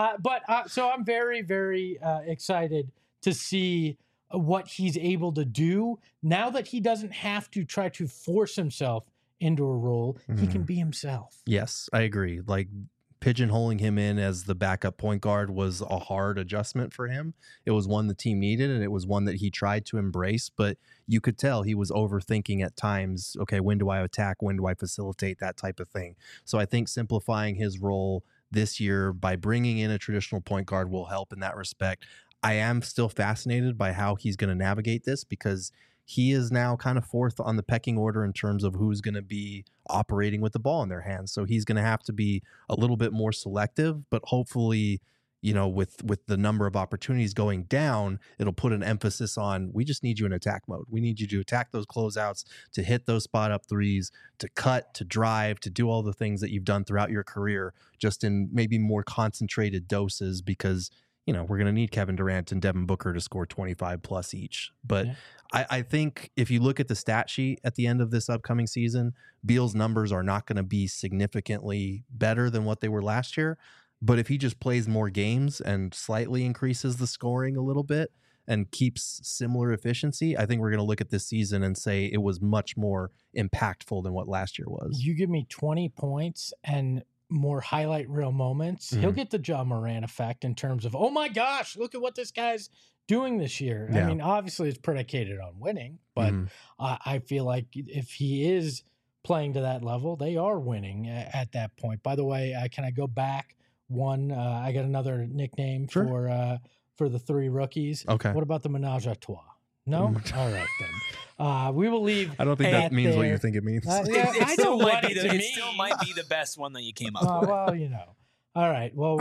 [SPEAKER 1] So I'm very, very excited to see what he's able to do now that he doesn't have to try to force himself into a role. He can be himself.
[SPEAKER 2] Yes, I agree. Like, pigeonholing him in as the backup point guard was a hard adjustment for him. It was one the team needed, and it was one that he tried to embrace, but you could tell he was overthinking at times. Okay, when do I attack? When do I facilitate? That type of thing. So I think simplifying his role this year by bringing in a traditional point guard will help in that respect. I am still fascinated by how he's going to navigate this, because he is now kind of fourth on the pecking order in terms of who's going to be operating with the ball in their hands. So he's going to have to be a little bit more selective, but hopefully, you know, with the number of opportunities going down, it'll put an emphasis on, we just need you in attack mode. We need you to attack those closeouts, to hit those spot up threes, to cut, to drive, to do all the things that you've done throughout your career, just in maybe more concentrated doses, because, you know, we're going to need Kevin Durant and Devin Booker to score 25 plus each. But I think if you look at the stat sheet at the end of this upcoming season, Beal's numbers are not going to be significantly better than what they were last year. But if he just plays more games and slightly increases the scoring a little bit and keeps similar efficiency, I think we're going to look at this season and say it was much more impactful than what last year was.
[SPEAKER 1] You give me 20 points and more highlight reel moments, he'll get the Ja Morant effect in terms of, oh my gosh, look at what this guy's doing this year. I mean, obviously it's predicated on winning, but I feel like if he is playing to that level, they are winning at that point. By the way, can I go back one? I got another nickname for the three rookies.
[SPEAKER 2] Okay.
[SPEAKER 1] What about the Menage a Trois? No? All right, then. We will leave.
[SPEAKER 2] I don't think that means what you think it means.
[SPEAKER 3] It still might be the best one that you came up with.
[SPEAKER 1] Well, you know. All right. Well,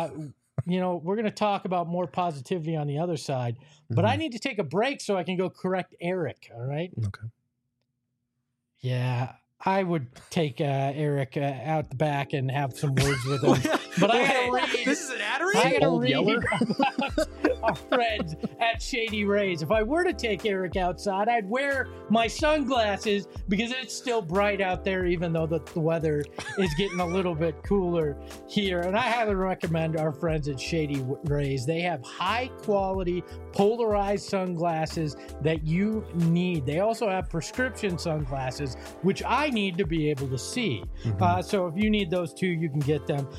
[SPEAKER 1] you know, we're going to talk about more positivity on the other side, but I need to take a break so I can go correct Eric. All right?
[SPEAKER 2] Okay.
[SPEAKER 1] Yeah. I would take Eric out the back and have some words with him. But I gotta read.
[SPEAKER 3] This is an ad read?
[SPEAKER 1] I gotta read about our friends at Shady Rays. If I were to take Eric outside, I'd wear my sunglasses because it's still bright out there, even though the weather is getting a little bit cooler here. And I highly recommend our friends at Shady Rays. They have high quality polarized sunglasses that you need. They also have prescription sunglasses, which I need to be able to see. So if you need those two, you can get them. They have a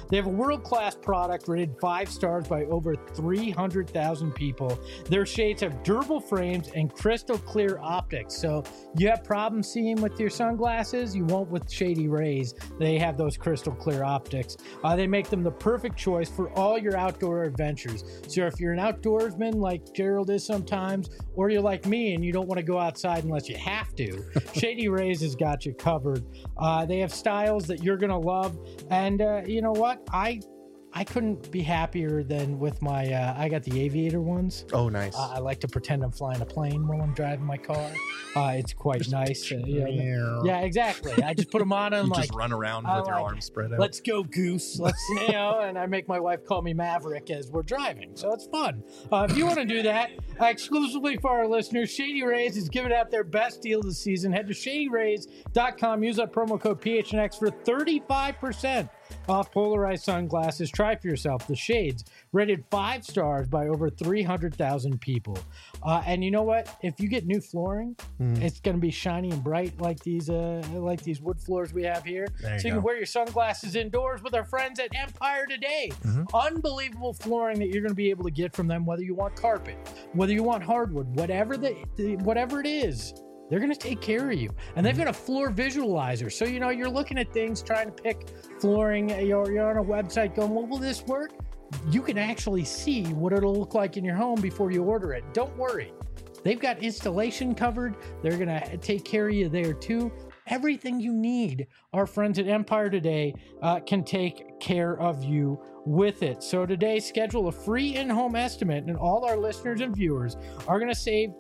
[SPEAKER 1] world-class product rated 5 stars by over 300,000 people. Their shades have durable frames and crystal clear optics. So you have problems seeing with your sunglasses, you won't with Shady Rays. They have those crystal clear optics. They make them the perfect choice for all your outdoor adventures. So if you're an outdoorsman like Gerald is sometimes, or you're like me and you don't want to go outside unless you have to, Shady Rays has got you covered. They have styles that you're going to love. And you know what? I couldn't be happier than with my, I got the aviator ones.
[SPEAKER 2] Oh, nice.
[SPEAKER 1] I like to pretend I'm flying a plane while I'm driving my car. It's quite nice. Yeah, exactly. I just put them on and
[SPEAKER 2] just run around with your arms spread out.
[SPEAKER 1] Let's go, Goose. Let's, and I make my wife call me Maverick as we're driving. So it's fun. If you want to do that, exclusively for our listeners, Shady Rays is giving out their best deal of the season. Head to shadyrays.com. Use that promo code PHNX for 35% off polarized sunglasses. Try for yourself the shades rated 5 stars by over 300,000 people. And you know what? If you get new flooring, it's going to be shiny and bright like these wood floors we have here. So you can wear your sunglasses indoors with our friends at Empire Today. Unbelievable flooring that you're going to be able to get from them, whether you want carpet, whether you want hardwood, whatever it is. They're going to take care of you. And they've got a floor visualizer. So, you're looking at things, trying to pick flooring. You're on a website going, well, will this work? You can actually see what it'll look like in your home before you order it. Don't worry. They've got installation covered. They're going to take care of you there too. Everything you need, our friends at Empire Today can take care of you with it. So today, schedule a free in-home estimate, and all our listeners and viewers are going to save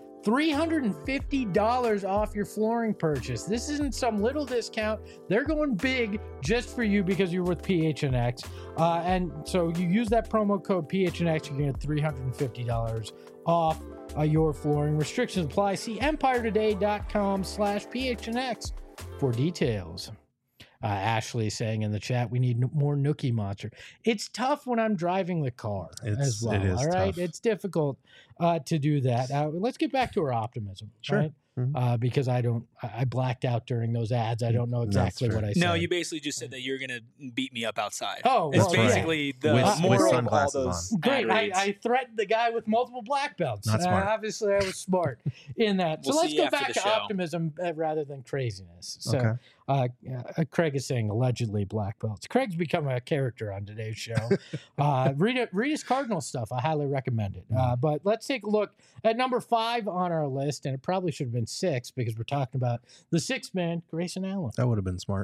[SPEAKER 1] $350 off your flooring purchase. This isn't some little discount. They're going big just for you because you're with PHNX. And so you use that promo code PHNX, you're going to get $350 off your flooring. Restrictions apply. See empiretoday.com/PHNX for details. Ashley saying in the chat, we need more Nookie Monster. It's tough when I'm driving the car as well. All right. Tough. It's difficult to do that. Let's get back to our optimism.
[SPEAKER 2] Sure.
[SPEAKER 1] Right? Because I blacked out during those ads. I don't know exactly what I said.
[SPEAKER 3] No, you basically just said that you're going to beat me up outside.
[SPEAKER 1] Oh,
[SPEAKER 3] it's basically the moral of all those.
[SPEAKER 1] Great. I threatened the guy with multiple black belts.
[SPEAKER 2] Not smart.
[SPEAKER 1] Obviously, I was smart in that. So let's go back to optimism rather than craziness. So Craig is saying allegedly black belts. Craig's become a character on today's show. Read his Cardinal stuff. I highly recommend it. But let's take a look at number 5 on our list, and it probably should have been 6 because we're talking about the 6th man, Grayson Allen.
[SPEAKER 2] That would have been smart.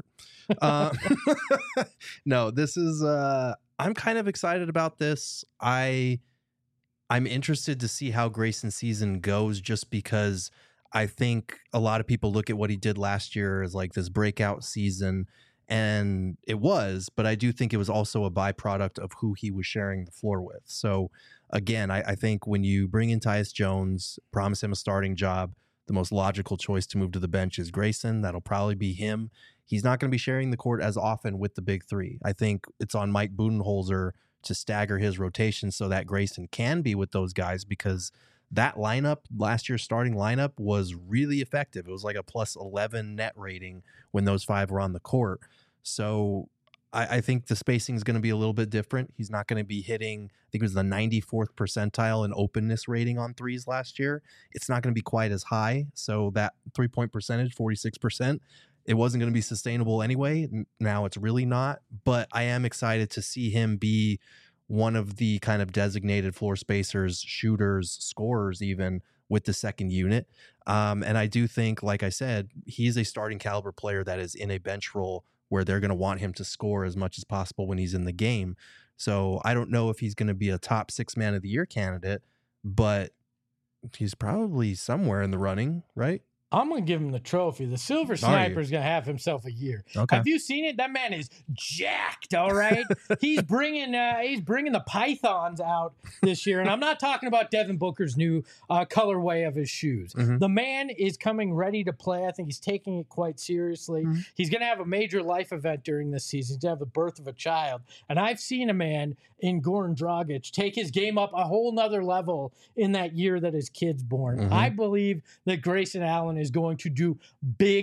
[SPEAKER 2] No, this is I'm kind of excited about this. I'm interested to see how Grayson's season goes, just because I think a lot of people look at what he did last year as like this breakout season, and it was, but I do think it was also a byproduct of who he was sharing the floor with. So again, I think when you bring in Tyus Jones, promise him a starting job, the most logical choice to move to the bench is Grayson. That'll probably be him. He's not going to be sharing the court as often with the big three. I think it's on Mike Budenholzer to stagger his rotation so that Grayson can be with those guys, because that lineup, last year's starting lineup, was really effective. It was like a plus 11 net rating when those 5 were on the court. So I think the spacing is going to be a little bit different. He's not going to be hitting, I think it was the 94th percentile in openness rating on threes last year. It's not going to be quite as high. So that 3-point percentage, 46%, it wasn't going to be sustainable anyway. Now it's really not. But I am excited to see him be one of the kind of designated floor spacers, shooters, scorers even with the second unit. And I do think, like I said, he's a starting caliber player that is in a bench role where they're going to want him to score as much as possible when he's in the game. So I don't know if he's going to be a top 6 man of the year candidate, but he's probably somewhere in the running, right?
[SPEAKER 1] I'm going to give him the trophy. The Silver Sniper is going to have himself a year. Okay. Have you seen it? That man is jacked, all right? He's bringing the pythons out this year, and I'm not talking about Devin Booker's new colorway of his shoes. Mm-hmm. The man is coming ready to play. I think he's taking it quite seriously. Mm-hmm. He's going to have a major life event during this season. He's going to have the birth of a child, and I've seen a man in Goran Dragic take his game up a whole nother level in that year that his kid's born. Mm-hmm. I believe that Grayson Allen is going to do big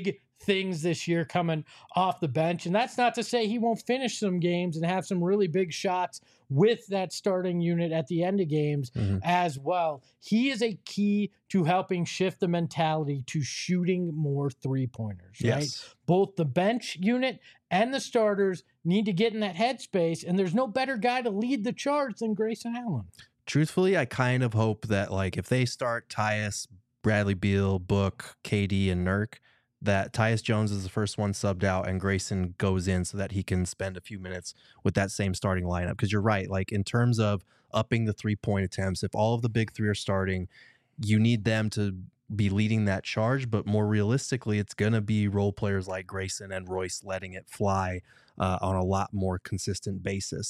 [SPEAKER 1] things this year coming off the bench. And that's not to say he won't finish some games and have some really big shots with that starting unit at the end of games as well. He is a key to helping shift the mentality to shooting more three-pointers, right?
[SPEAKER 2] Yes.
[SPEAKER 1] Both the bench unit and the starters need to get in that headspace, and there's no better guy to lead the charge than Grayson Allen.
[SPEAKER 2] Truthfully, I kind of hope that, like, if they start Tyus, Bradley Beal, Book, KD, and Nurk, that Tyus Jones is the first one subbed out and Grayson goes in so that he can spend a few minutes with that same starting lineup. Because you're right, like, in terms of upping the three-point attempts, if all of the big three are starting, you need them to be leading that charge. But more realistically, it's going to be role players like Grayson and Royce letting it fly on a lot more consistent basis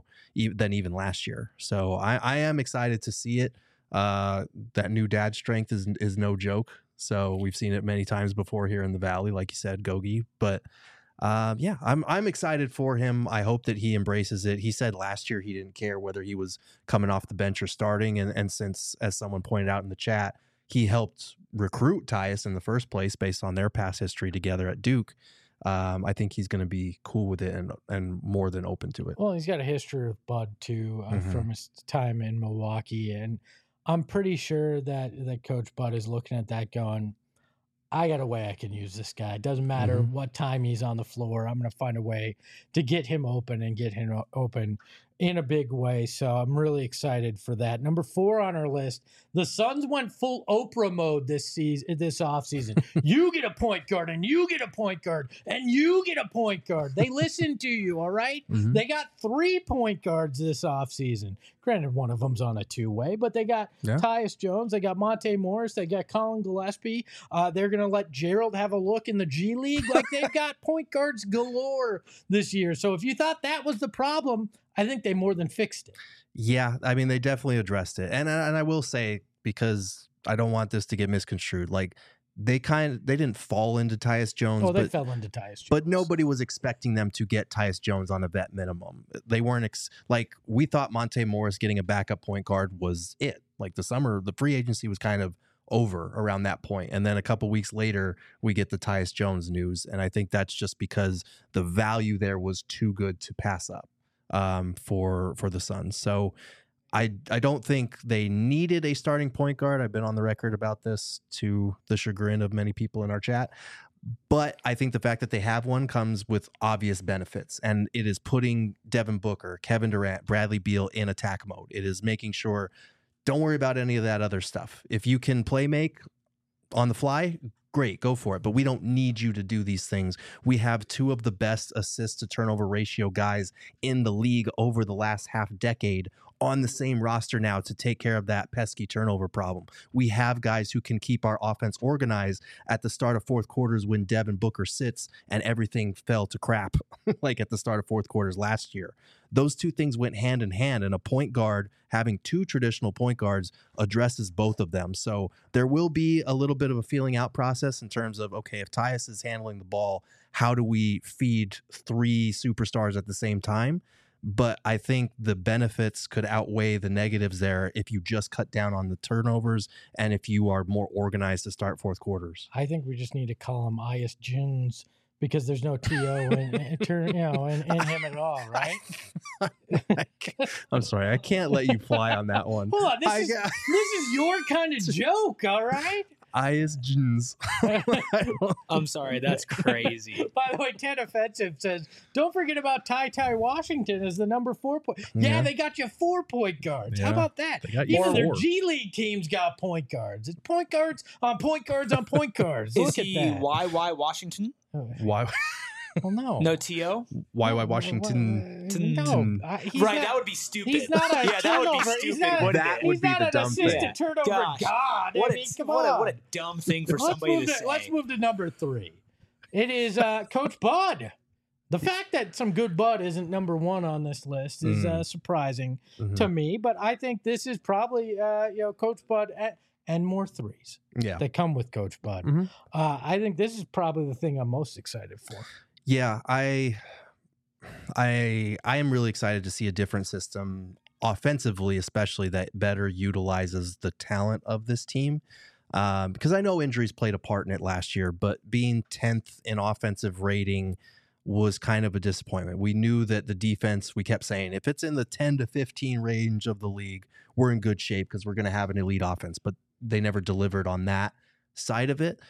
[SPEAKER 2] than even last year. So I am excited to see it. That new dad strength is no joke. So we've seen it many times before here in the Valley, like you said, Gogi. But yeah, I'm excited for him. I hope that he embraces it. He said last year he didn't care whether he was coming off the bench or starting. And since, as someone pointed out in the chat, he helped recruit Tyus in the first place based on their past history together at Duke, I think he's going to be cool with it and more than open to it.
[SPEAKER 1] Well, he's got a history with Bud too from his time in Milwaukee, and I'm pretty sure that Coach Bud is looking at that going, I got a way I can use this guy. It doesn't matter what time he's on the floor. I'm going to find a way to get him open and get him open in a big way. So I'm really excited for that. Number 4 on our list, the Suns went full Oprah mode this offseason. You get a point guard, and you get a point guard, and you get a point guard. They listened to you, all right? They got 3 point guards this offseason. Granted, one of them's on a two-way, but they got Tyus Jones, they got Monte Morris, they got Colin Gillespie. They're going to let Gerald have a look in the G League. Like, they've got point guards galore this year. So if you thought that was the problem, I think they more than fixed it.
[SPEAKER 2] Yeah, I mean, they definitely addressed it. And I will say, because I don't want this to get misconstrued, like, they didn't fall into Tyus Jones.
[SPEAKER 1] Oh, they fell into Tyus Jones.
[SPEAKER 2] But nobody was expecting them to get Tyus Jones on a vet minimum. They weren't we thought Monte Morris getting a backup point guard was it. Like, the free agency was kind of over around that point. And then a couple weeks later, we get the Tyus Jones news. And I think that's just because the value there was too good to pass up for the Suns. So I don't think they needed a starting point guard. I've been on the record about this to the chagrin of many people in our chat. But I think the fact that they have one comes with obvious benefits, and it is putting Devin Booker, Kevin Durant, Bradley Beal in attack mode. It is making sure, don't worry about any of that other stuff. If you can play make on the fly, great, go for it. But we don't need you to do these things. We have 2 of the best assist to turnover ratio guys in the league over the last half decade on the same roster now to take care of that pesky turnover problem. We have guys who can keep our offense organized at the start of fourth quarters when Devin Booker sits and everything fell to crap, like at the start of fourth quarters last year. Those 2 things went hand in hand, and a point guard having 2 traditional point guards addresses both of them. So there will be a little bit of a feeling out process in terms of, okay, if Tyus is handling the ball, how do we feed 3 superstars at the same time? But I think the benefits could outweigh the negatives there if you just cut down on the turnovers and if you are more organized to start fourth quarters.
[SPEAKER 1] I think we just need to call him Ias Jins, because there's no TO in him at all, right?
[SPEAKER 2] I'm sorry, I can't let you fly on that one.
[SPEAKER 1] Hold on, this is your kind of joke, all right?
[SPEAKER 2] Ias Jins.
[SPEAKER 3] I'm sorry, that's crazy.
[SPEAKER 1] By the way, 10 Offensive says, don't forget about Ty Washington as the number 4 point. Yeah, they got you 4 point guards. How about that? Even their G League teams got point guards. It's point guards on point guards on point guards. Look at that.
[SPEAKER 3] YY Washington?
[SPEAKER 2] Why?
[SPEAKER 1] Well, no.
[SPEAKER 3] No T.O.?
[SPEAKER 2] YY Washington.
[SPEAKER 1] No.
[SPEAKER 3] That would be stupid.
[SPEAKER 1] He's not a
[SPEAKER 3] that would be stupid.
[SPEAKER 2] That would be the dumb thing.
[SPEAKER 1] He's not an assistant turnover god.
[SPEAKER 3] What a dumb thing for somebody to say.
[SPEAKER 1] Let's move to number 3. It is Coach Bud. The fact that some good Bud isn't number 1 on this list is surprising to me, but I think this is probably Coach Bud and more threes that come with Coach Bud. I think this is probably the thing I'm most excited for.
[SPEAKER 2] Yeah, I am really excited to see a different system offensively, especially that better utilizes the talent of this team. because I know injuries played a part in it last year, but being 10th in offensive rating was kind of a disappointment. We knew that the defense, we kept saying, if it's in the 10 to 15 range of the league, we're in good shape because we're going to have an elite offense, but they never delivered on that side of it.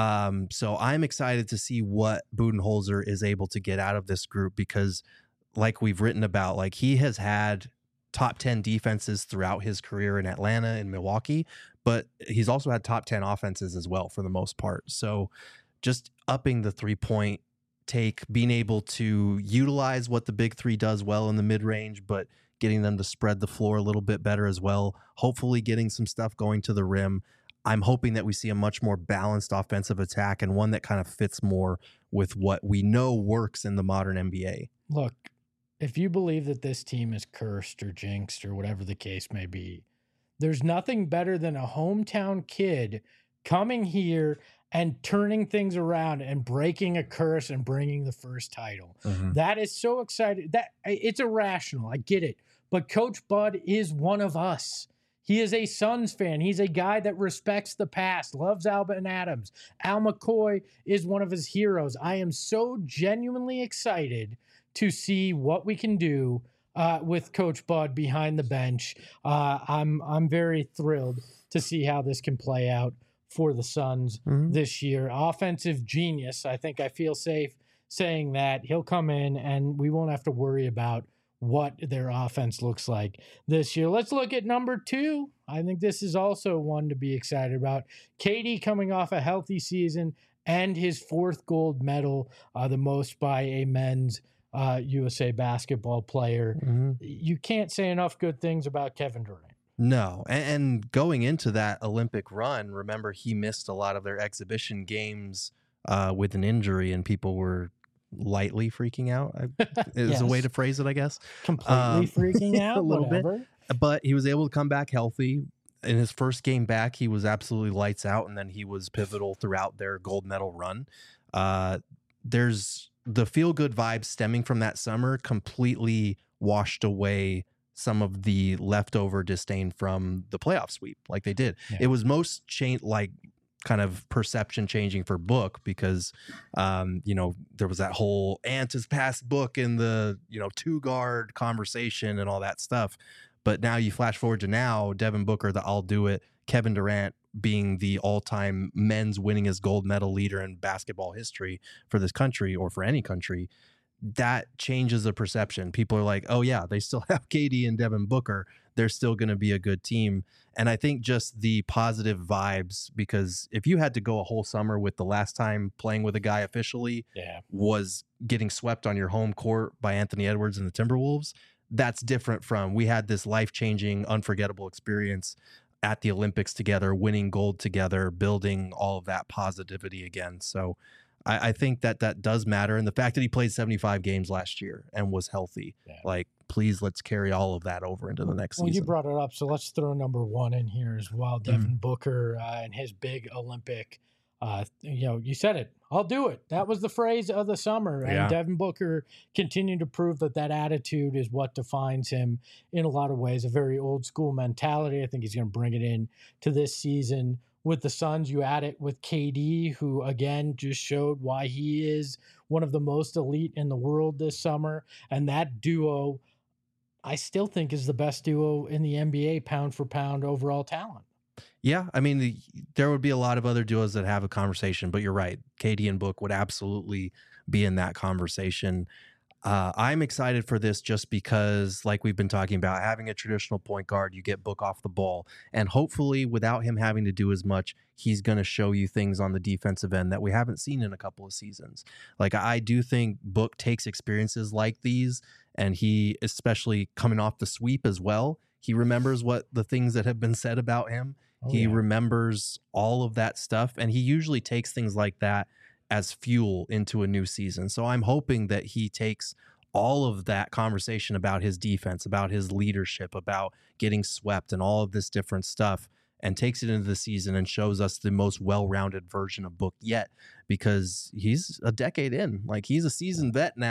[SPEAKER 2] So I'm excited to see what Budenholzer is able to get out of this group, because like we've written about, like he has had top 10 defenses throughout his career in Atlanta and Milwaukee, but he's also had top 10 offenses as well for the most part. So just upping the 3-point take, being able to utilize what the big three does well in the mid-range, but getting them to spread the floor a little bit better as well. Hopefully getting some stuff going to the rim. I'm hoping that we see a much more balanced offensive attack, and one that kind of fits more with what we know works in the modern NBA.
[SPEAKER 1] Look, if you believe that this team is cursed or jinxed or whatever the case may be, there's nothing better than a hometown kid coming here and turning things around and breaking a curse and bringing the first title. Mm-hmm. That is so exciting. That it's irrational. I get it. But Coach Bud is one of us. He is a Suns fan. He's a guy that respects the past, loves Alvin Adams. Al McCoy is one of his heroes. I am so genuinely excited to see what we can do with Coach Bud behind the bench. I'm very thrilled to see how this can play out for the Suns this year. Offensive genius. I think I feel safe saying that. He'll come in and we won't have to worry about what their offense looks like this year. Let's look at number 2. I think this is also one to be excited about. KD coming off a healthy season and his 4th gold medal, the most by a men's USA basketball player. You can't say enough good things about Kevin Durant.
[SPEAKER 2] No, and going into that Olympic run, remember he missed a lot of their exhibition games with an injury, and people were lightly freaking out. Is a way to phrase it, I guess.
[SPEAKER 1] Completely freaking out,
[SPEAKER 2] a little bit. But he was able to come back healthy. In his first game back, he was absolutely lights out, and then he was pivotal throughout their gold medal run. There's the feel-good vibes stemming from that summer completely washed away some of the leftover disdain from the playoff sweep like they did. Yeah. It was most kind of perception changing for Book because, there was that whole Ant has passed Book in the, 2-guard conversation and all that stuff. But now you flash forward to now, Devin Booker, the I'll do it, Kevin Durant being the all-time men's winningest gold medal leader in basketball history for this country or for any country. That changes the perception. People are like, oh yeah, they still have KD and Devin Booker. They're still going to be a good team. And I think just the positive vibes, because if you had to go a whole summer with the last time playing with a guy officially was getting swept on your home court by Anthony Edwards and the Timberwolves, that's different from we had this life-changing, unforgettable experience at the Olympics together, winning gold together, building all of that positivity again. So I think that does matter. And the fact that he played 75 games last year and was healthy, please, let's carry all of that over into the next season.
[SPEAKER 1] You brought it up, so let's throw number 1 in here as well. Devin Booker and his big Olympic, you said it. I'll do it. That was the phrase of the summer. And Devin Booker continued to prove that attitude is what defines him in a lot of ways. A very old school mentality. I think he's going to bring it in to this season. With the Suns, you add it with KD, who, again, just showed why he is one of the most elite in the world this summer. And that duo, I still think, is the best duo in the NBA, pound for pound, overall talent.
[SPEAKER 2] Yeah, I mean, there would be a lot of other duos that have a conversation, but you're right. KD and Book would absolutely be in that conversation. I'm excited for this just because, like we've been talking about, having a traditional point guard, you get Book off the ball. And hopefully, without him having to do as much, he's going to show you things on the defensive end that we haven't seen in a couple of seasons. Like, I do think Book takes experiences like these, and he, especially coming off the sweep as well, he remembers what the things that have been said about him. He remembers all of that stuff, and he usually takes things like that as fuel into a new season. So I'm hoping that he takes all of that conversation about his defense, about his leadership, about getting swept and all of this different stuff, and takes it into the season and shows us the most well-rounded version of Book yet, because he's a decade in. Like, he's a seasoned vet now,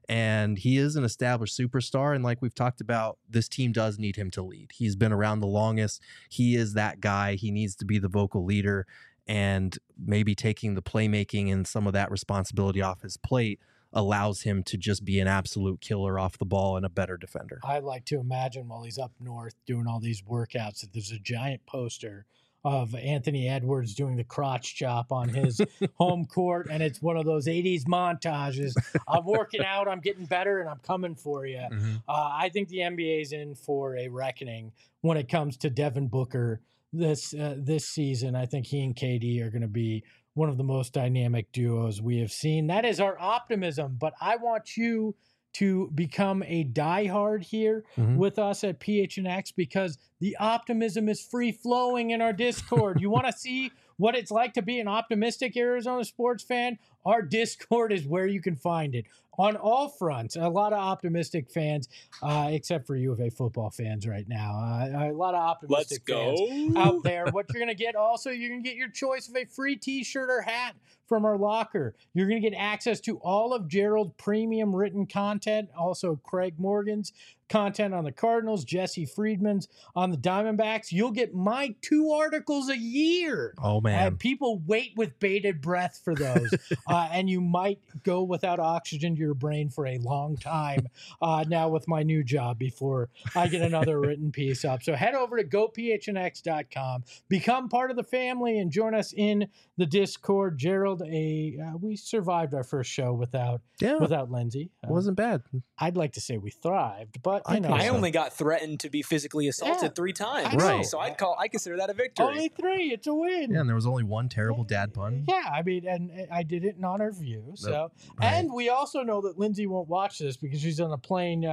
[SPEAKER 2] And he is an established superstar. And like we've talked about, this team does need him to lead. He's been around the longest. He is that guy. He needs to be the vocal leader, and maybe taking the playmaking and some of that responsibility off his plate allows him to just be an absolute killer off the ball and a better defender.
[SPEAKER 1] I like to imagine while he's up north doing all these workouts that there's a giant poster of Anthony Edwards doing the crotch chop on his home court, and it's one of those 80s montages. I'm working out, I'm getting better, and I'm coming for you. I think the NBA is in for a reckoning when it comes to Devin Booker this season. I think he and KD are going to be one of the most dynamic duos we have seen. That is our optimism, but I want you to become a diehard here with us at PHNX, because the optimism is free flowing in our Discord. You want to see what it's like to be an optimistic Arizona sports fan? Our Discord is where you can find it on all fronts. A lot of optimistic fans, except for U of A football fans right now. A lot of optimistic fans out there. What you're going to get also, you're going to get your choice of a free t-shirt or hat from our locker. You're going to get access to all of Gerald's premium written content, also Craig Morgan's content on the Cardinals, Jesse Friedman's on the Diamondbacks. You'll get my 2 articles a year.
[SPEAKER 2] Oh, man.
[SPEAKER 1] And people wait with bated breath for those. And you might go without oxygen to your brain for a long time now with my new job before I get another written piece up. So head over to gophnx.com, become part of the family, and join us in the Discord. Gerald, we survived our first show without Lindsay.
[SPEAKER 2] It wasn't bad.
[SPEAKER 1] I'd like to say we thrived, but
[SPEAKER 3] I only got threatened to be physically assaulted 3 times.
[SPEAKER 2] Right.
[SPEAKER 3] So I consider that a victory.
[SPEAKER 1] Only 3. It's a win.
[SPEAKER 2] Yeah, and there was only one terrible dad pun.
[SPEAKER 1] Yeah, I mean, and I did it in honor of you. So, and we also know that Lindsay won't watch this because she's on a plane.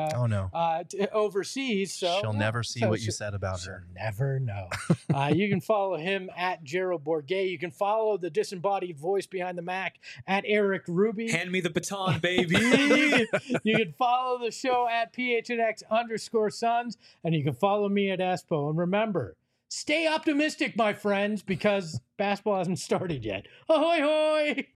[SPEAKER 1] Overseas. So
[SPEAKER 2] she'll never see what you said about her.
[SPEAKER 1] Never know. You can follow him at Gerald Bourget. You can follow the disembodied voice behind the Mac at Eric Ruby.
[SPEAKER 3] Hand me the baton, baby.
[SPEAKER 1] You can follow the show at PHNX_Suns, and you can follow me at Espo. And remember, stay optimistic, my friends, because basketball hasn't started yet. Ahoy, hoy!